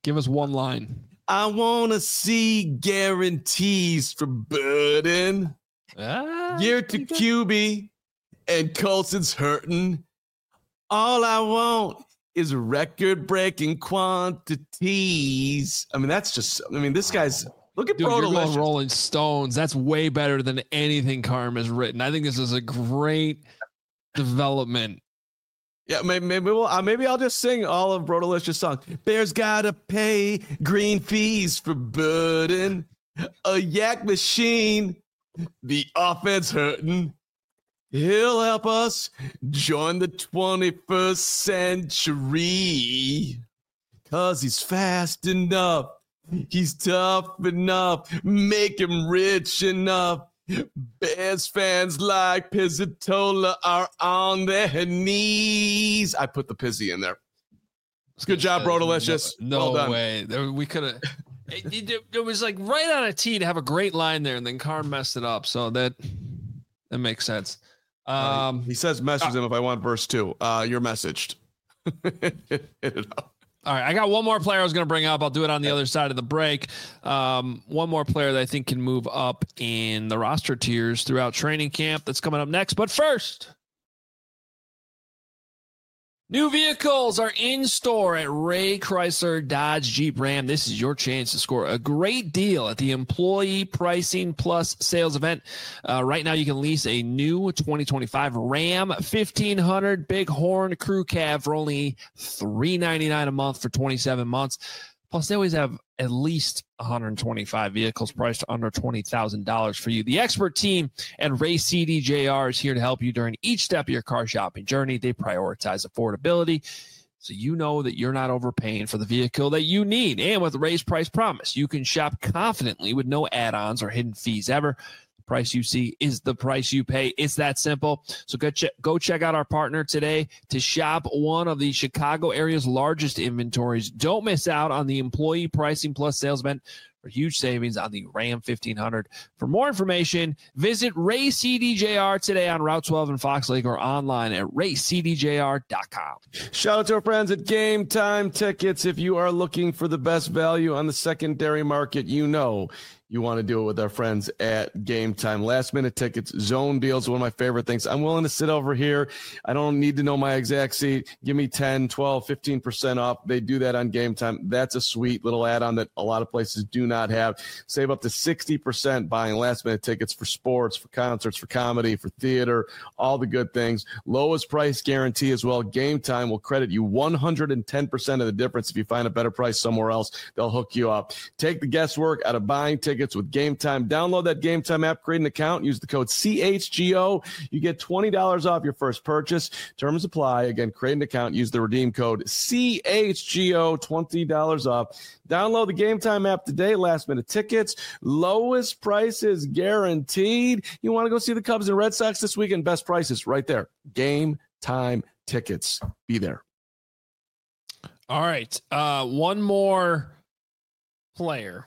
Give us one line. I want to see guarantees for Burden. Year to QB and Colson's hurting. All I want is record-breaking quantities. I mean, this guy's look at Bro Delicious. Rolling Stones. That's way better than anything Carm has written. I think this is a great development. Yeah, maybe I'll just sing all of Bro Delicious songs. Bears gotta pay green fees for Burden. A yak machine. The offense hurting. He'll help us join the 21st century. 'Cause he's fast enough. He's tough enough. Make him rich enough. Bears fans like Pizzatola are on their knees. I put the Pizzy in there. Good job, Bro Delicious. No well done. way. We could have. It was like right on a tee to have a great line there, and then Carm messed it up. So that makes sense. He says message him if I want verse 2. You're messaged. Hit it up. All right, I got one more player I was going to bring up. I'll do it on the other side of the break. One more player that I think can move up in the roster tiers throughout training camp. That's coming up next. But first, new vehicles are in store at Ray Chrysler Dodge Jeep Ram. This is your chance to score a great deal at the Employee Pricing Plus sales event. Right now, you can lease a new 2025 Ram 1500 Bighorn Crew Cab for only $399 a month for 27 months. Plus, they always have at least 125 vehicles priced under $20,000 for you. The expert team at Ray CDJR is here to help you during each step of your car shopping journey. They prioritize affordability, so you know that you're not overpaying for the vehicle that you need. And with Ray's Price Promise, you can shop confidently with no add-ons or hidden fees ever. The price you see is the price you pay. It's that simple. So go check out our partner today to shop one of the Chicago area's largest inventories. Don't miss out on the Employee Pricing Plus sales event for huge savings on the Ram 1500. For more information, visit Ray CDJR today on Route 12 in Fox Lake or online at raycdjr.com. Shout out to our friends at Game Time Tickets. If you are looking for the best value on the secondary market, you know you want to do it with our friends at Game Time. Last minute tickets, zone deals, one of my favorite things. I'm willing to sit over here. I don't need to know my exact seat. Give me 10, 12, 15% off. They do that on Game Time. That's a sweet little add-on that a lot of places do not have. Save up to 60% buying last minute tickets for sports, for concerts, for comedy, for theater, all the good things. Lowest price guarantee as well. Game Time will credit you 110% of the difference. If you find a better price somewhere else, they'll hook you up. Take the guesswork out of buying tickets with Game Time. Download that Game Time app, create an account, use the code CHGO. You get $20 off your first purchase. Terms apply. Again, create an account, use the redeem code CHGO, $20 off. Download the Game Time app today. Last minute tickets, lowest prices guaranteed. You want to go see the Cubs and Red Sox this weekend? Best prices right there. Game Time tickets. Be there. All right. One more player.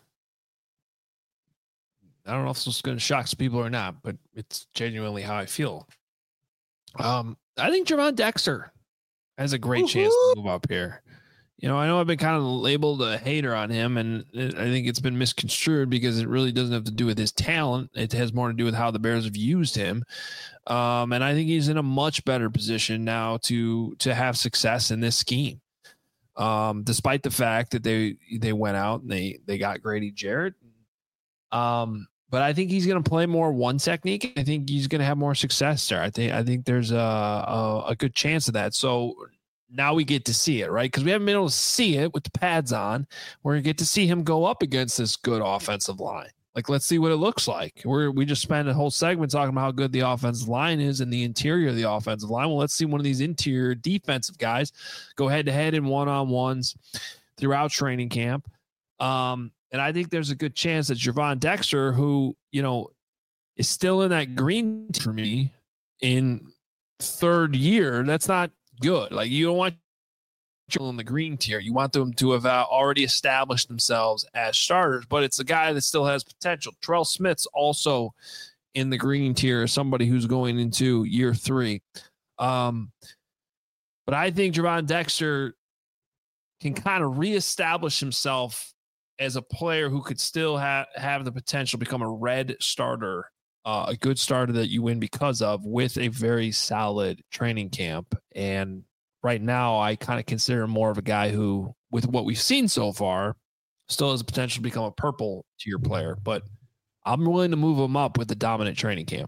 I don't know if this is going to shock some people or not, but it's genuinely how I feel. I think Gervon Dexter has a great chance to move up here. You know, I know I've been kind of labeled a hater on him, and I think it's been misconstrued because it really doesn't have to do with his talent. It has more to do with how the Bears have used him. And I think he's in a much better position now to have success in this scheme. Despite the fact that they went out and they got Grady Jarrett. But I think he's going to play more one technique. I think he's going to have more success there. I think there's a good chance of that. So now we get to see it, right? Because we haven't been able to see it with the pads on. We're going to get to see him go up against this good offensive line. Like, let's see what it looks like. We just spent a whole segment talking about how good the offensive line is and the interior of the offensive line. Well, let's see one of these interior defensive guys go head-to-head in one-on-ones throughout training camp. And I think there's a good chance that Gervon Dexter, who, you know, is still in that green for me in third year, that's not good. Like, you don't want in the green tier. You want them to have already established themselves as starters, but it's a guy that still has potential. Terrell Smith's also in the green tier, somebody who's going into year 3. But I think Gervon Dexter can kind of reestablish himself as a player who could still have the potential to become a red starter, a good starter that you win because of, with a very solid training camp. And right now, I kind of consider him more of a guy who, with what we've seen so far, still has the potential to become a purple tier player. But I'm willing to move him up with the dominant training camp.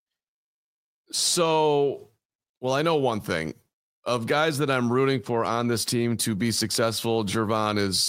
So, well, I know one thing. Of guys that I'm rooting for on this team to be successful, Gervon is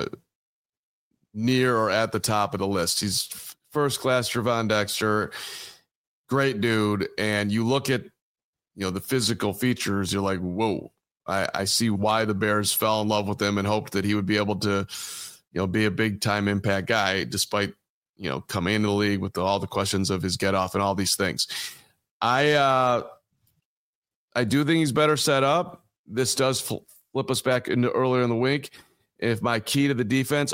near or at the top of the list. He's first class Gervon Dexter, great dude. And you look at, the physical features, you're like, whoa, I see why the Bears fell in love with him and hoped that he would be able to, be a big time impact guy, despite, coming into the league with all the questions of his get off and all these things. I do think he's better set up. This does flip us back into earlier in the week. If my key to the defense,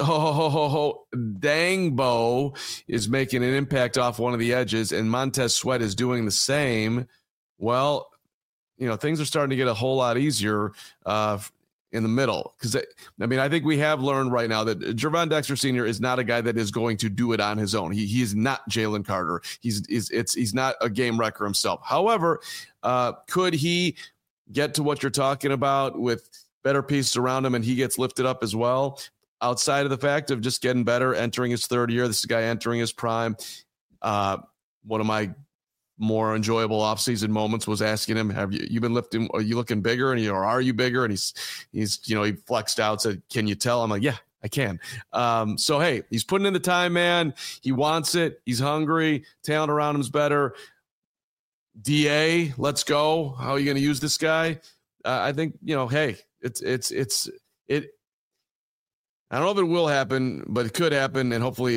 Dangbo is making an impact off one of the edges and Montez Sweat is doing the same, well, things are starting to get a whole lot easier in the middle. Because, I think we have learned right now that Gervon Dexter Sr. is not a guy that is going to do it on his own. He is not Jalen Carter. He's not a game wrecker himself. However, could he get to what you're talking about with better pieces around him and he gets lifted up as well? Outside of the fact of just getting better, entering his third year, this is a guy entering his prime. One of my more enjoyable offseason moments was asking him, have you been lifting? Are you looking bigger? And are you bigger? And he's he flexed out, said, can you tell? I'm like, yeah, I can. So, hey, he's putting in the time, man. He wants it. He's hungry. Talent around him is better. DA, let's go. How are you going to use this guy? I think, hey, it's I don't know if it will happen, but it could happen. And hopefully,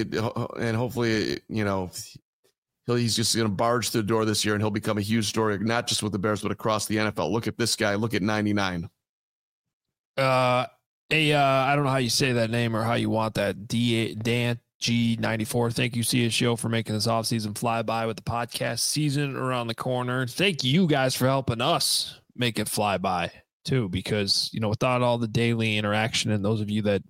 he's just going to barge through the door this year and he'll become a huge story, not just with the Bears, but across the NFL. Look at this guy. Look at 99. I don't know how you say that name or how you want that. Dan G94. Thank you, CSGO, for making this offseason flyby with the podcast season around the corner. Thank you guys for helping us make it fly by too, because, without all the daily interaction and those of you that,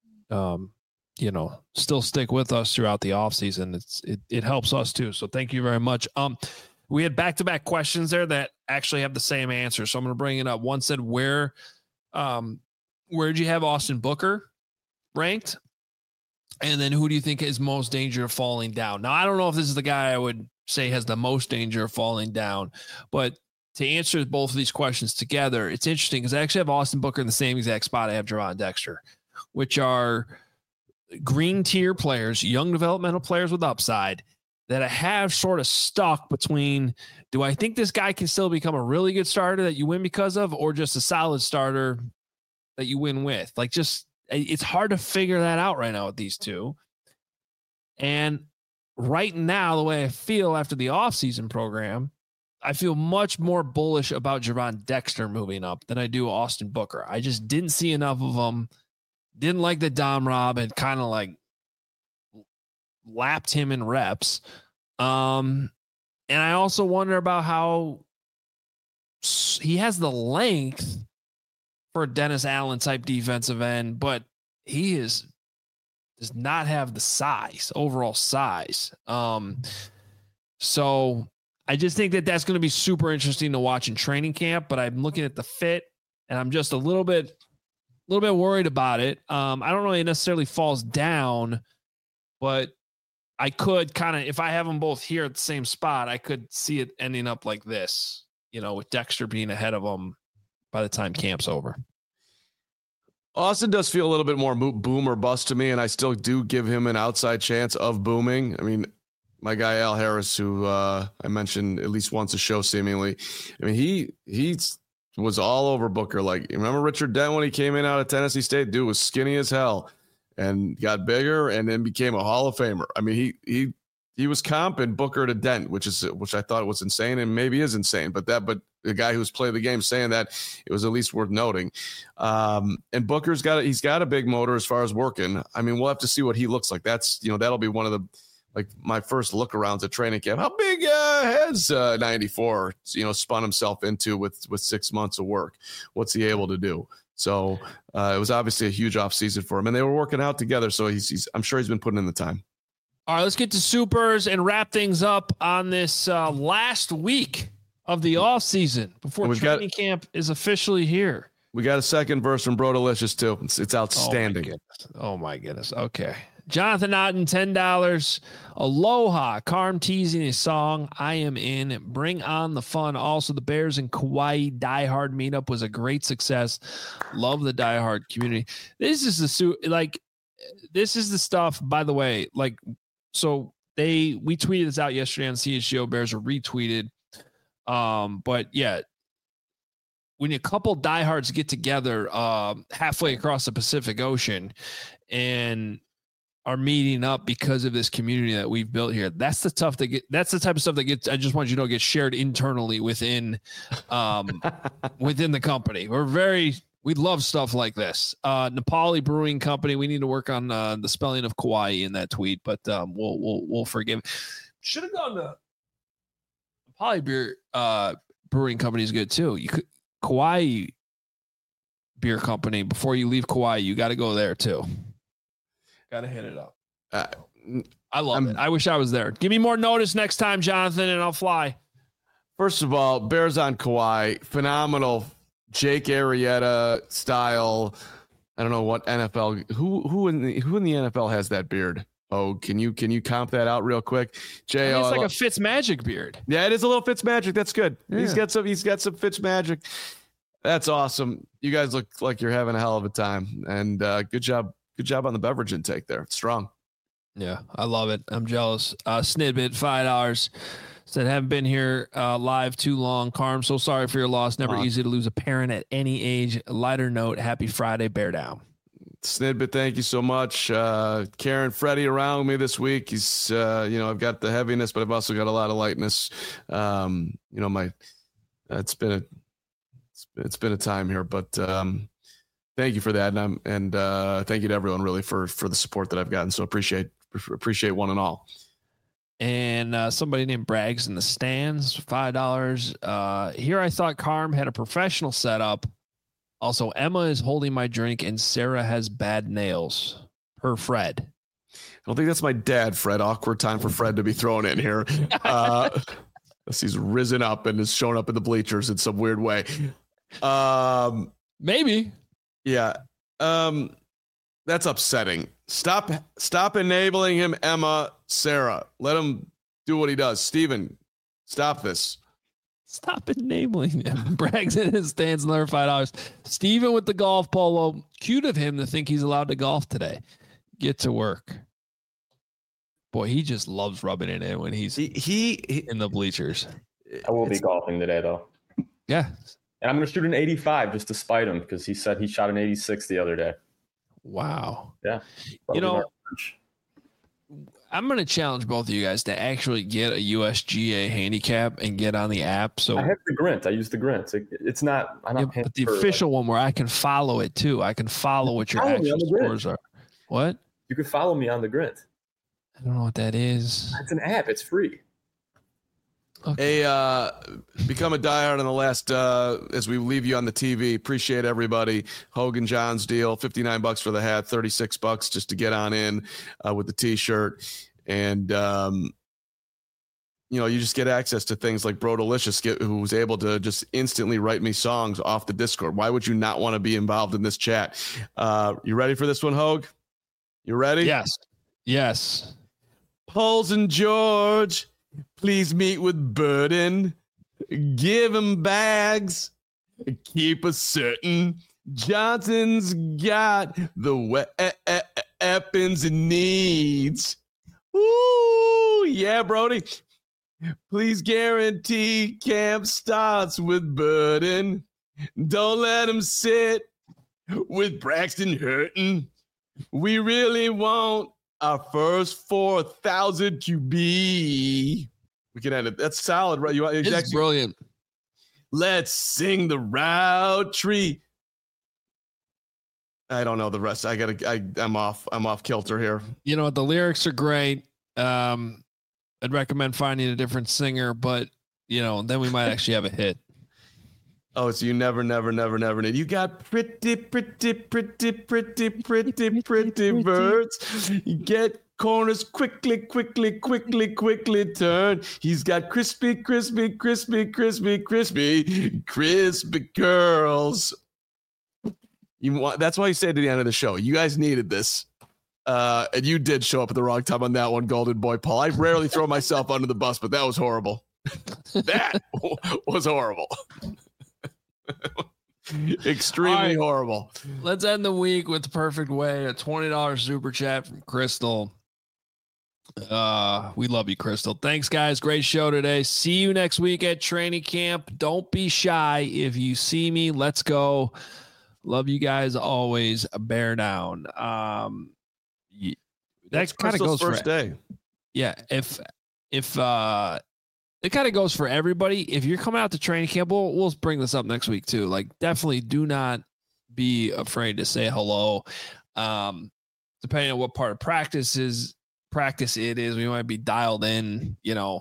still stick with us throughout the offseason, it helps us too. So thank you very much. We had back-to-back questions there that actually have the same answer. So I'm going to bring it up. One said, where'd you have Austin Booker ranked? And then who do you think is most danger of falling down? Now, I don't know if this is the guy I would say has the most danger of falling down, but to answer both of these questions together, it's interesting because I actually have Austin Booker in the same exact spot I have Gervon Dexter, which are green tier players, young developmental players with upside that I have sort of stuck between, do I think this guy can still become a really good starter that you win because of, or just a solid starter that you win with? It's hard to figure that out right now with these two. And right now, the way I feel after the offseason program, I feel much more bullish about Gervon Dexter moving up than I do Austin Booker. I just didn't see enough of him. Didn't like that Dom Rob had kind of lapped him in reps. And I also wonder about how he has the length for a Dennis Allen type defensive end, but he does not have the overall size. So I just think that that's going to be super interesting to watch in training camp, but I'm looking at the fit and I'm just a little bit worried about it. I don't know if it necessarily falls down, but I could kind of, if I have them both here at the same spot, I could see it ending up like this, with Dexter being ahead of them by the time camp's over. Austin does feel a little bit more boom or bust to me, and I still do give him an outside chance of booming. My guy Al Harris, who I mentioned at least once a show seemingly, he was all over Booker. Like, remember Richard Dent when he came in out of Tennessee State? Dude was skinny as hell and got bigger and then became a Hall of Famer. He was comping Booker to Dent, which I thought was insane and maybe is insane. But the guy who's played the game saying that, it was at least worth noting. And Booker's he's got a big motor as far as working. We'll have to see what he looks like. That's, that'll be one of the, my first look arounds at training camp. How big has 94, spun himself into with 6 months of work? What's he able to do? So it was obviously a huge offseason for him, and they were working out together. So I'm sure he's been putting in the time. All right, let's get to supers and wrap things up on this last week of the offseason before training camp is officially here. We got a second verse from Bro Delicious too. It's outstanding. Oh my goodness. Okay. Jonathan Otten, $10. Aloha. Carm teasing his song. I am in. Bring on the fun. Also, the Bears and Kauai Die Hard meetup was a great success. Love the Die Hard community. This is the stuff, by the way, so we tweeted this out yesterday on CHGO. Bears were retweeted. But yeah, when a couple diehards get together halfway across the Pacific Ocean and are meeting up because of this community that we've built here, that's the type of stuff that gets, I just want you to know, gets shared internally within within the company. We love stuff like this. Nepali Brewing Company. We need to work on the spelling of Kauai in that tweet, but we'll forgive. Should have gone to Nepali Brewing Company is good too. Kauai Beer Company. Before you leave Kauai, you got to go there too. Got to hit it up. I love it. I wish I was there. Give me more notice next time, Jonathan, and I'll fly. First of all, Bears on Kauai, phenomenal. Jake Arrieta style. I don't know what NFL. Who in the NFL has that beard? Oh, can you comp that out real quick? Jay, it's like a Fitzmagic beard. Yeah, it is a little Fitzmagic. That's good. Yeah. He's got some Fitzmagic. That's awesome. You guys look like you're having a hell of a time, and good job on the beverage intake there. It's strong. Yeah, I love it. I'm jealous. Snidbit, $5. Said, haven't been here live too long. Carm, so sorry for your loss. Never easy to lose a parent at any age. Lighter note, happy Friday, bear down. Snidbit, thank you so much. Karen, Freddie around with me this week. He's, I've got the heaviness, but I've also got a lot of lightness. It's been a time here, but thank you for that. And thank you to everyone really for the support that I've gotten. So appreciate one and all. And somebody named Braggs in the stands, $5. Here I thought Carm had a professional setup. Also, Emma is holding my drink and Sarah has bad nails. Per Fred. I don't think that's my dad, Fred. Awkward time for Fred to be thrown in here. He's risen up and has shown up in the bleachers in some weird way. Maybe. Yeah. That's upsetting. Stop enabling him, Emma, Sarah. Let him do what he does. Steven, stop this. Stop enabling him. Braggs in his stands, another $5. Steven with the golf polo. Cute of him to think he's allowed to golf today. Get to work. Boy, he just loves rubbing it in when he's in the bleachers. I will be golfing today, though. Yeah. And I'm going to shoot an 85 just to spite him because he said he shot an 86 the other day. Wow. Yeah. I'm going to challenge both of you guys to actually get a USGA handicap and get on the app. So I have the Grint. I use the Grint. It's not. I'm not but the official one where I can follow it too. I can follow what your actual scores are. What? You can follow me on the Grint. I don't know what that is. It's an app. It's free. Okay. Become a diehard on the last as we leave you on the TV. Appreciate everybody. Hogan John's deal, $59 for the hat, $36 just to get on in with the t-shirt. And you just get access to things like Bro Delicious, who was able to just instantly write me songs off the Discord. Why would you not want to be involved in this chat? You ready for this one, Hogue? You ready? Yes. Poles and George, please meet with Burden. Give him bags. Keep us certain. Johnson's got the weapons it needs. Ooh, yeah, Brody. Please guarantee camp starts with Burden. Don't let him sit with Braxton hurting. We really want our first 4,000 QB. We can end it. That's solid, right? It's brilliant. Let's sing the route tree. I don't know the rest. I'm off kilter here. You know what? The lyrics are great. I'd recommend finding a different singer, but then we might actually have a hit. Oh, so you never need. You got pretty birds. You get corners quickly turn. He's got crispy curls. That's why you said to the end of the show. You guys needed this. And you did show up at the wrong time on that one, Golden Boy Paul. I rarely throw myself under the bus, but that was horrible. That was horrible. Extremely horrible. Let's end the week with the perfect way. A $20 super chat from Crystal. We love you, Crystal. Thanks, guys. Great show today. See you next week at training camp. Don't be shy. If you see me, let's go. Love you guys always. Bear down. That kind of goes first day. Yeah. If it kind of goes for everybody. If you're coming out to training camp, we'll bring this up next week too. Like, definitely do not be afraid to say hello. Depending on what part of practice it is, we might be dialed in,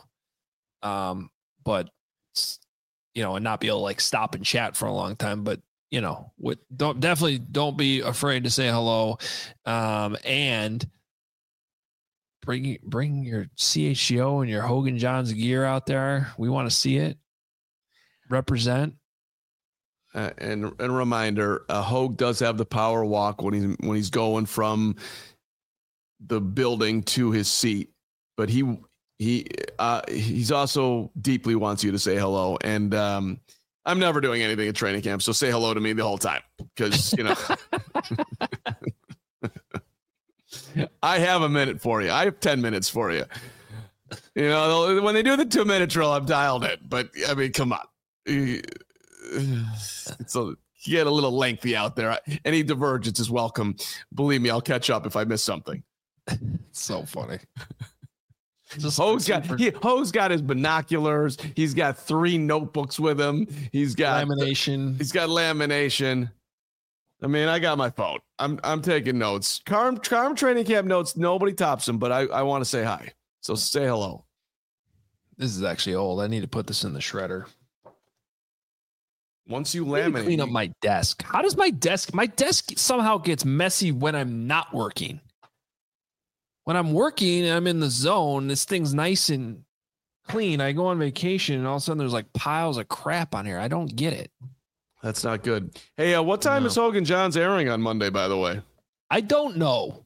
but and not be able to like stop and chat for a long time. But don't be afraid to say hello. And bring your CHGO and your Hogan Johns gear out there. We want to see it. Represent. And a reminder, Hogue does have the power walk when he's going from the building to his seat, but he's also deeply wants you to say hello. And I'm never doing anything at training camp, so say hello to me the whole time, because I have a minute for you. I have 10 minutes for you. When they do the 2-minute drill, I'm dialed in. But I mean, come on. You get a little lengthy out there. Any divergence is welcome. Believe me, I'll catch up if I miss something. It's so funny. Ho's got his binoculars. He's got 3 notebooks with him. He's got lamination. I mean, I got my phone. I'm taking notes. Carm training camp notes. Nobody tops them, but I want to say hi. So say hello. This is actually old. I need to put this in the shredder. Once you laminate, clean up my desk. How does my desk somehow gets messy when I'm not working? When I'm working and I'm in the zone, this thing's nice and clean. I go on vacation and all of a sudden there's like piles of crap on here. I don't get it. That's not good. Hey, what time is Hogan Johns airing on Monday, by the way? I don't know.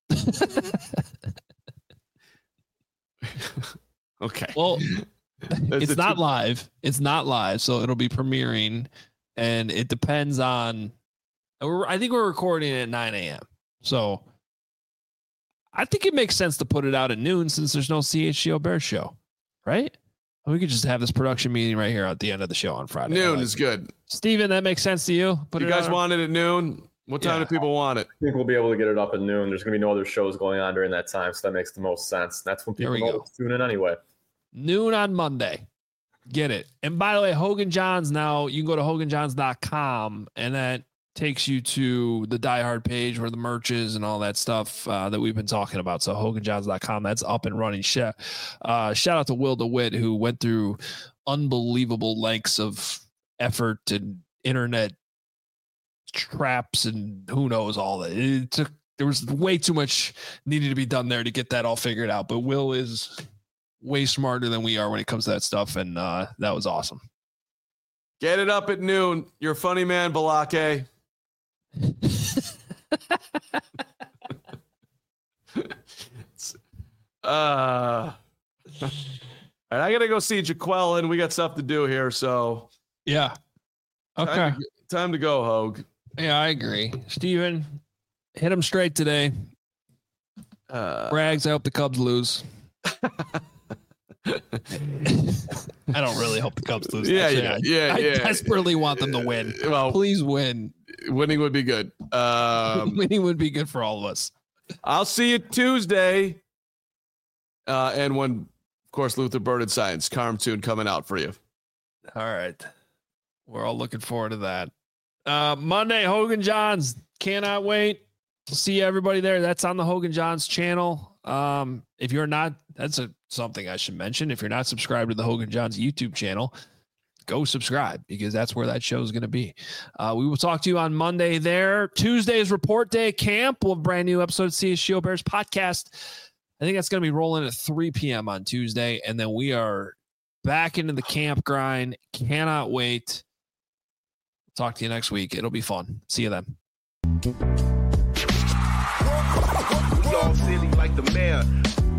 Okay. Well, it's not live. It's not live, so it'll be premiering, and it depends on. I think we're recording at 9 a.m. So I think it makes sense to put it out at noon since there's no CHGO Bears show, right? We could just have this production meeting right here at the end of the show on Friday. Noon is good. Steven, that makes sense to you? You guys want it at noon? What time do people want it? I think we'll be able to get it up at noon. There's going to be no other shows going on during that time, so that makes the most sense. That's when people know to tune in anyway. Noon on Monday. Get it. And by the way, Hogan Johns now, you can go to hoganjohns.com, and that takes you to the Die Hard page where the merch is and all that stuff that we've been talking about. So hoganjohns.com, that's up and running. Shout out to Will DeWitt, who went through unbelievable lengths of effort and internet traps and who knows all that. There was way too much needed to be done there to get that all figured out. But Will is way smarter than we are when it comes to that stuff. And that was awesome. Get it up at noon. You're a funny man, Balake. I gotta go see Jaqueline. We got stuff to do here, so yeah. Okay. Time to go, Hogue. Yeah, I agree. Steven, hit him straight today. Rags, I hope the Cubs lose. I don't really hope the Cubs lose. Yeah. I desperately want them to win. Well, please win. Winning would be good. Winning would be good for all of us. I'll see you Tuesday. And when, of course, Luther Burden signs, Carm Tune coming out for you. All right. We're all looking forward to that. Monday, Hogan Johns. Cannot wait to see everybody there. That's on the Hogan Johns channel. If you're not, that's something I should mention. If you're not subscribed to the Hogan Johns YouTube channel, go subscribe because that's where that show is going to be. We will talk to you on Monday there. Tuesday's report day camp. We'll have a brand new episode of CHGO Bears podcast. I think that's going to be rolling at 3 p.m. on Tuesday. And then we are back into the camp grind. Cannot wait. Talk to you next week. It'll be fun. See you then. We all silly like the mayor.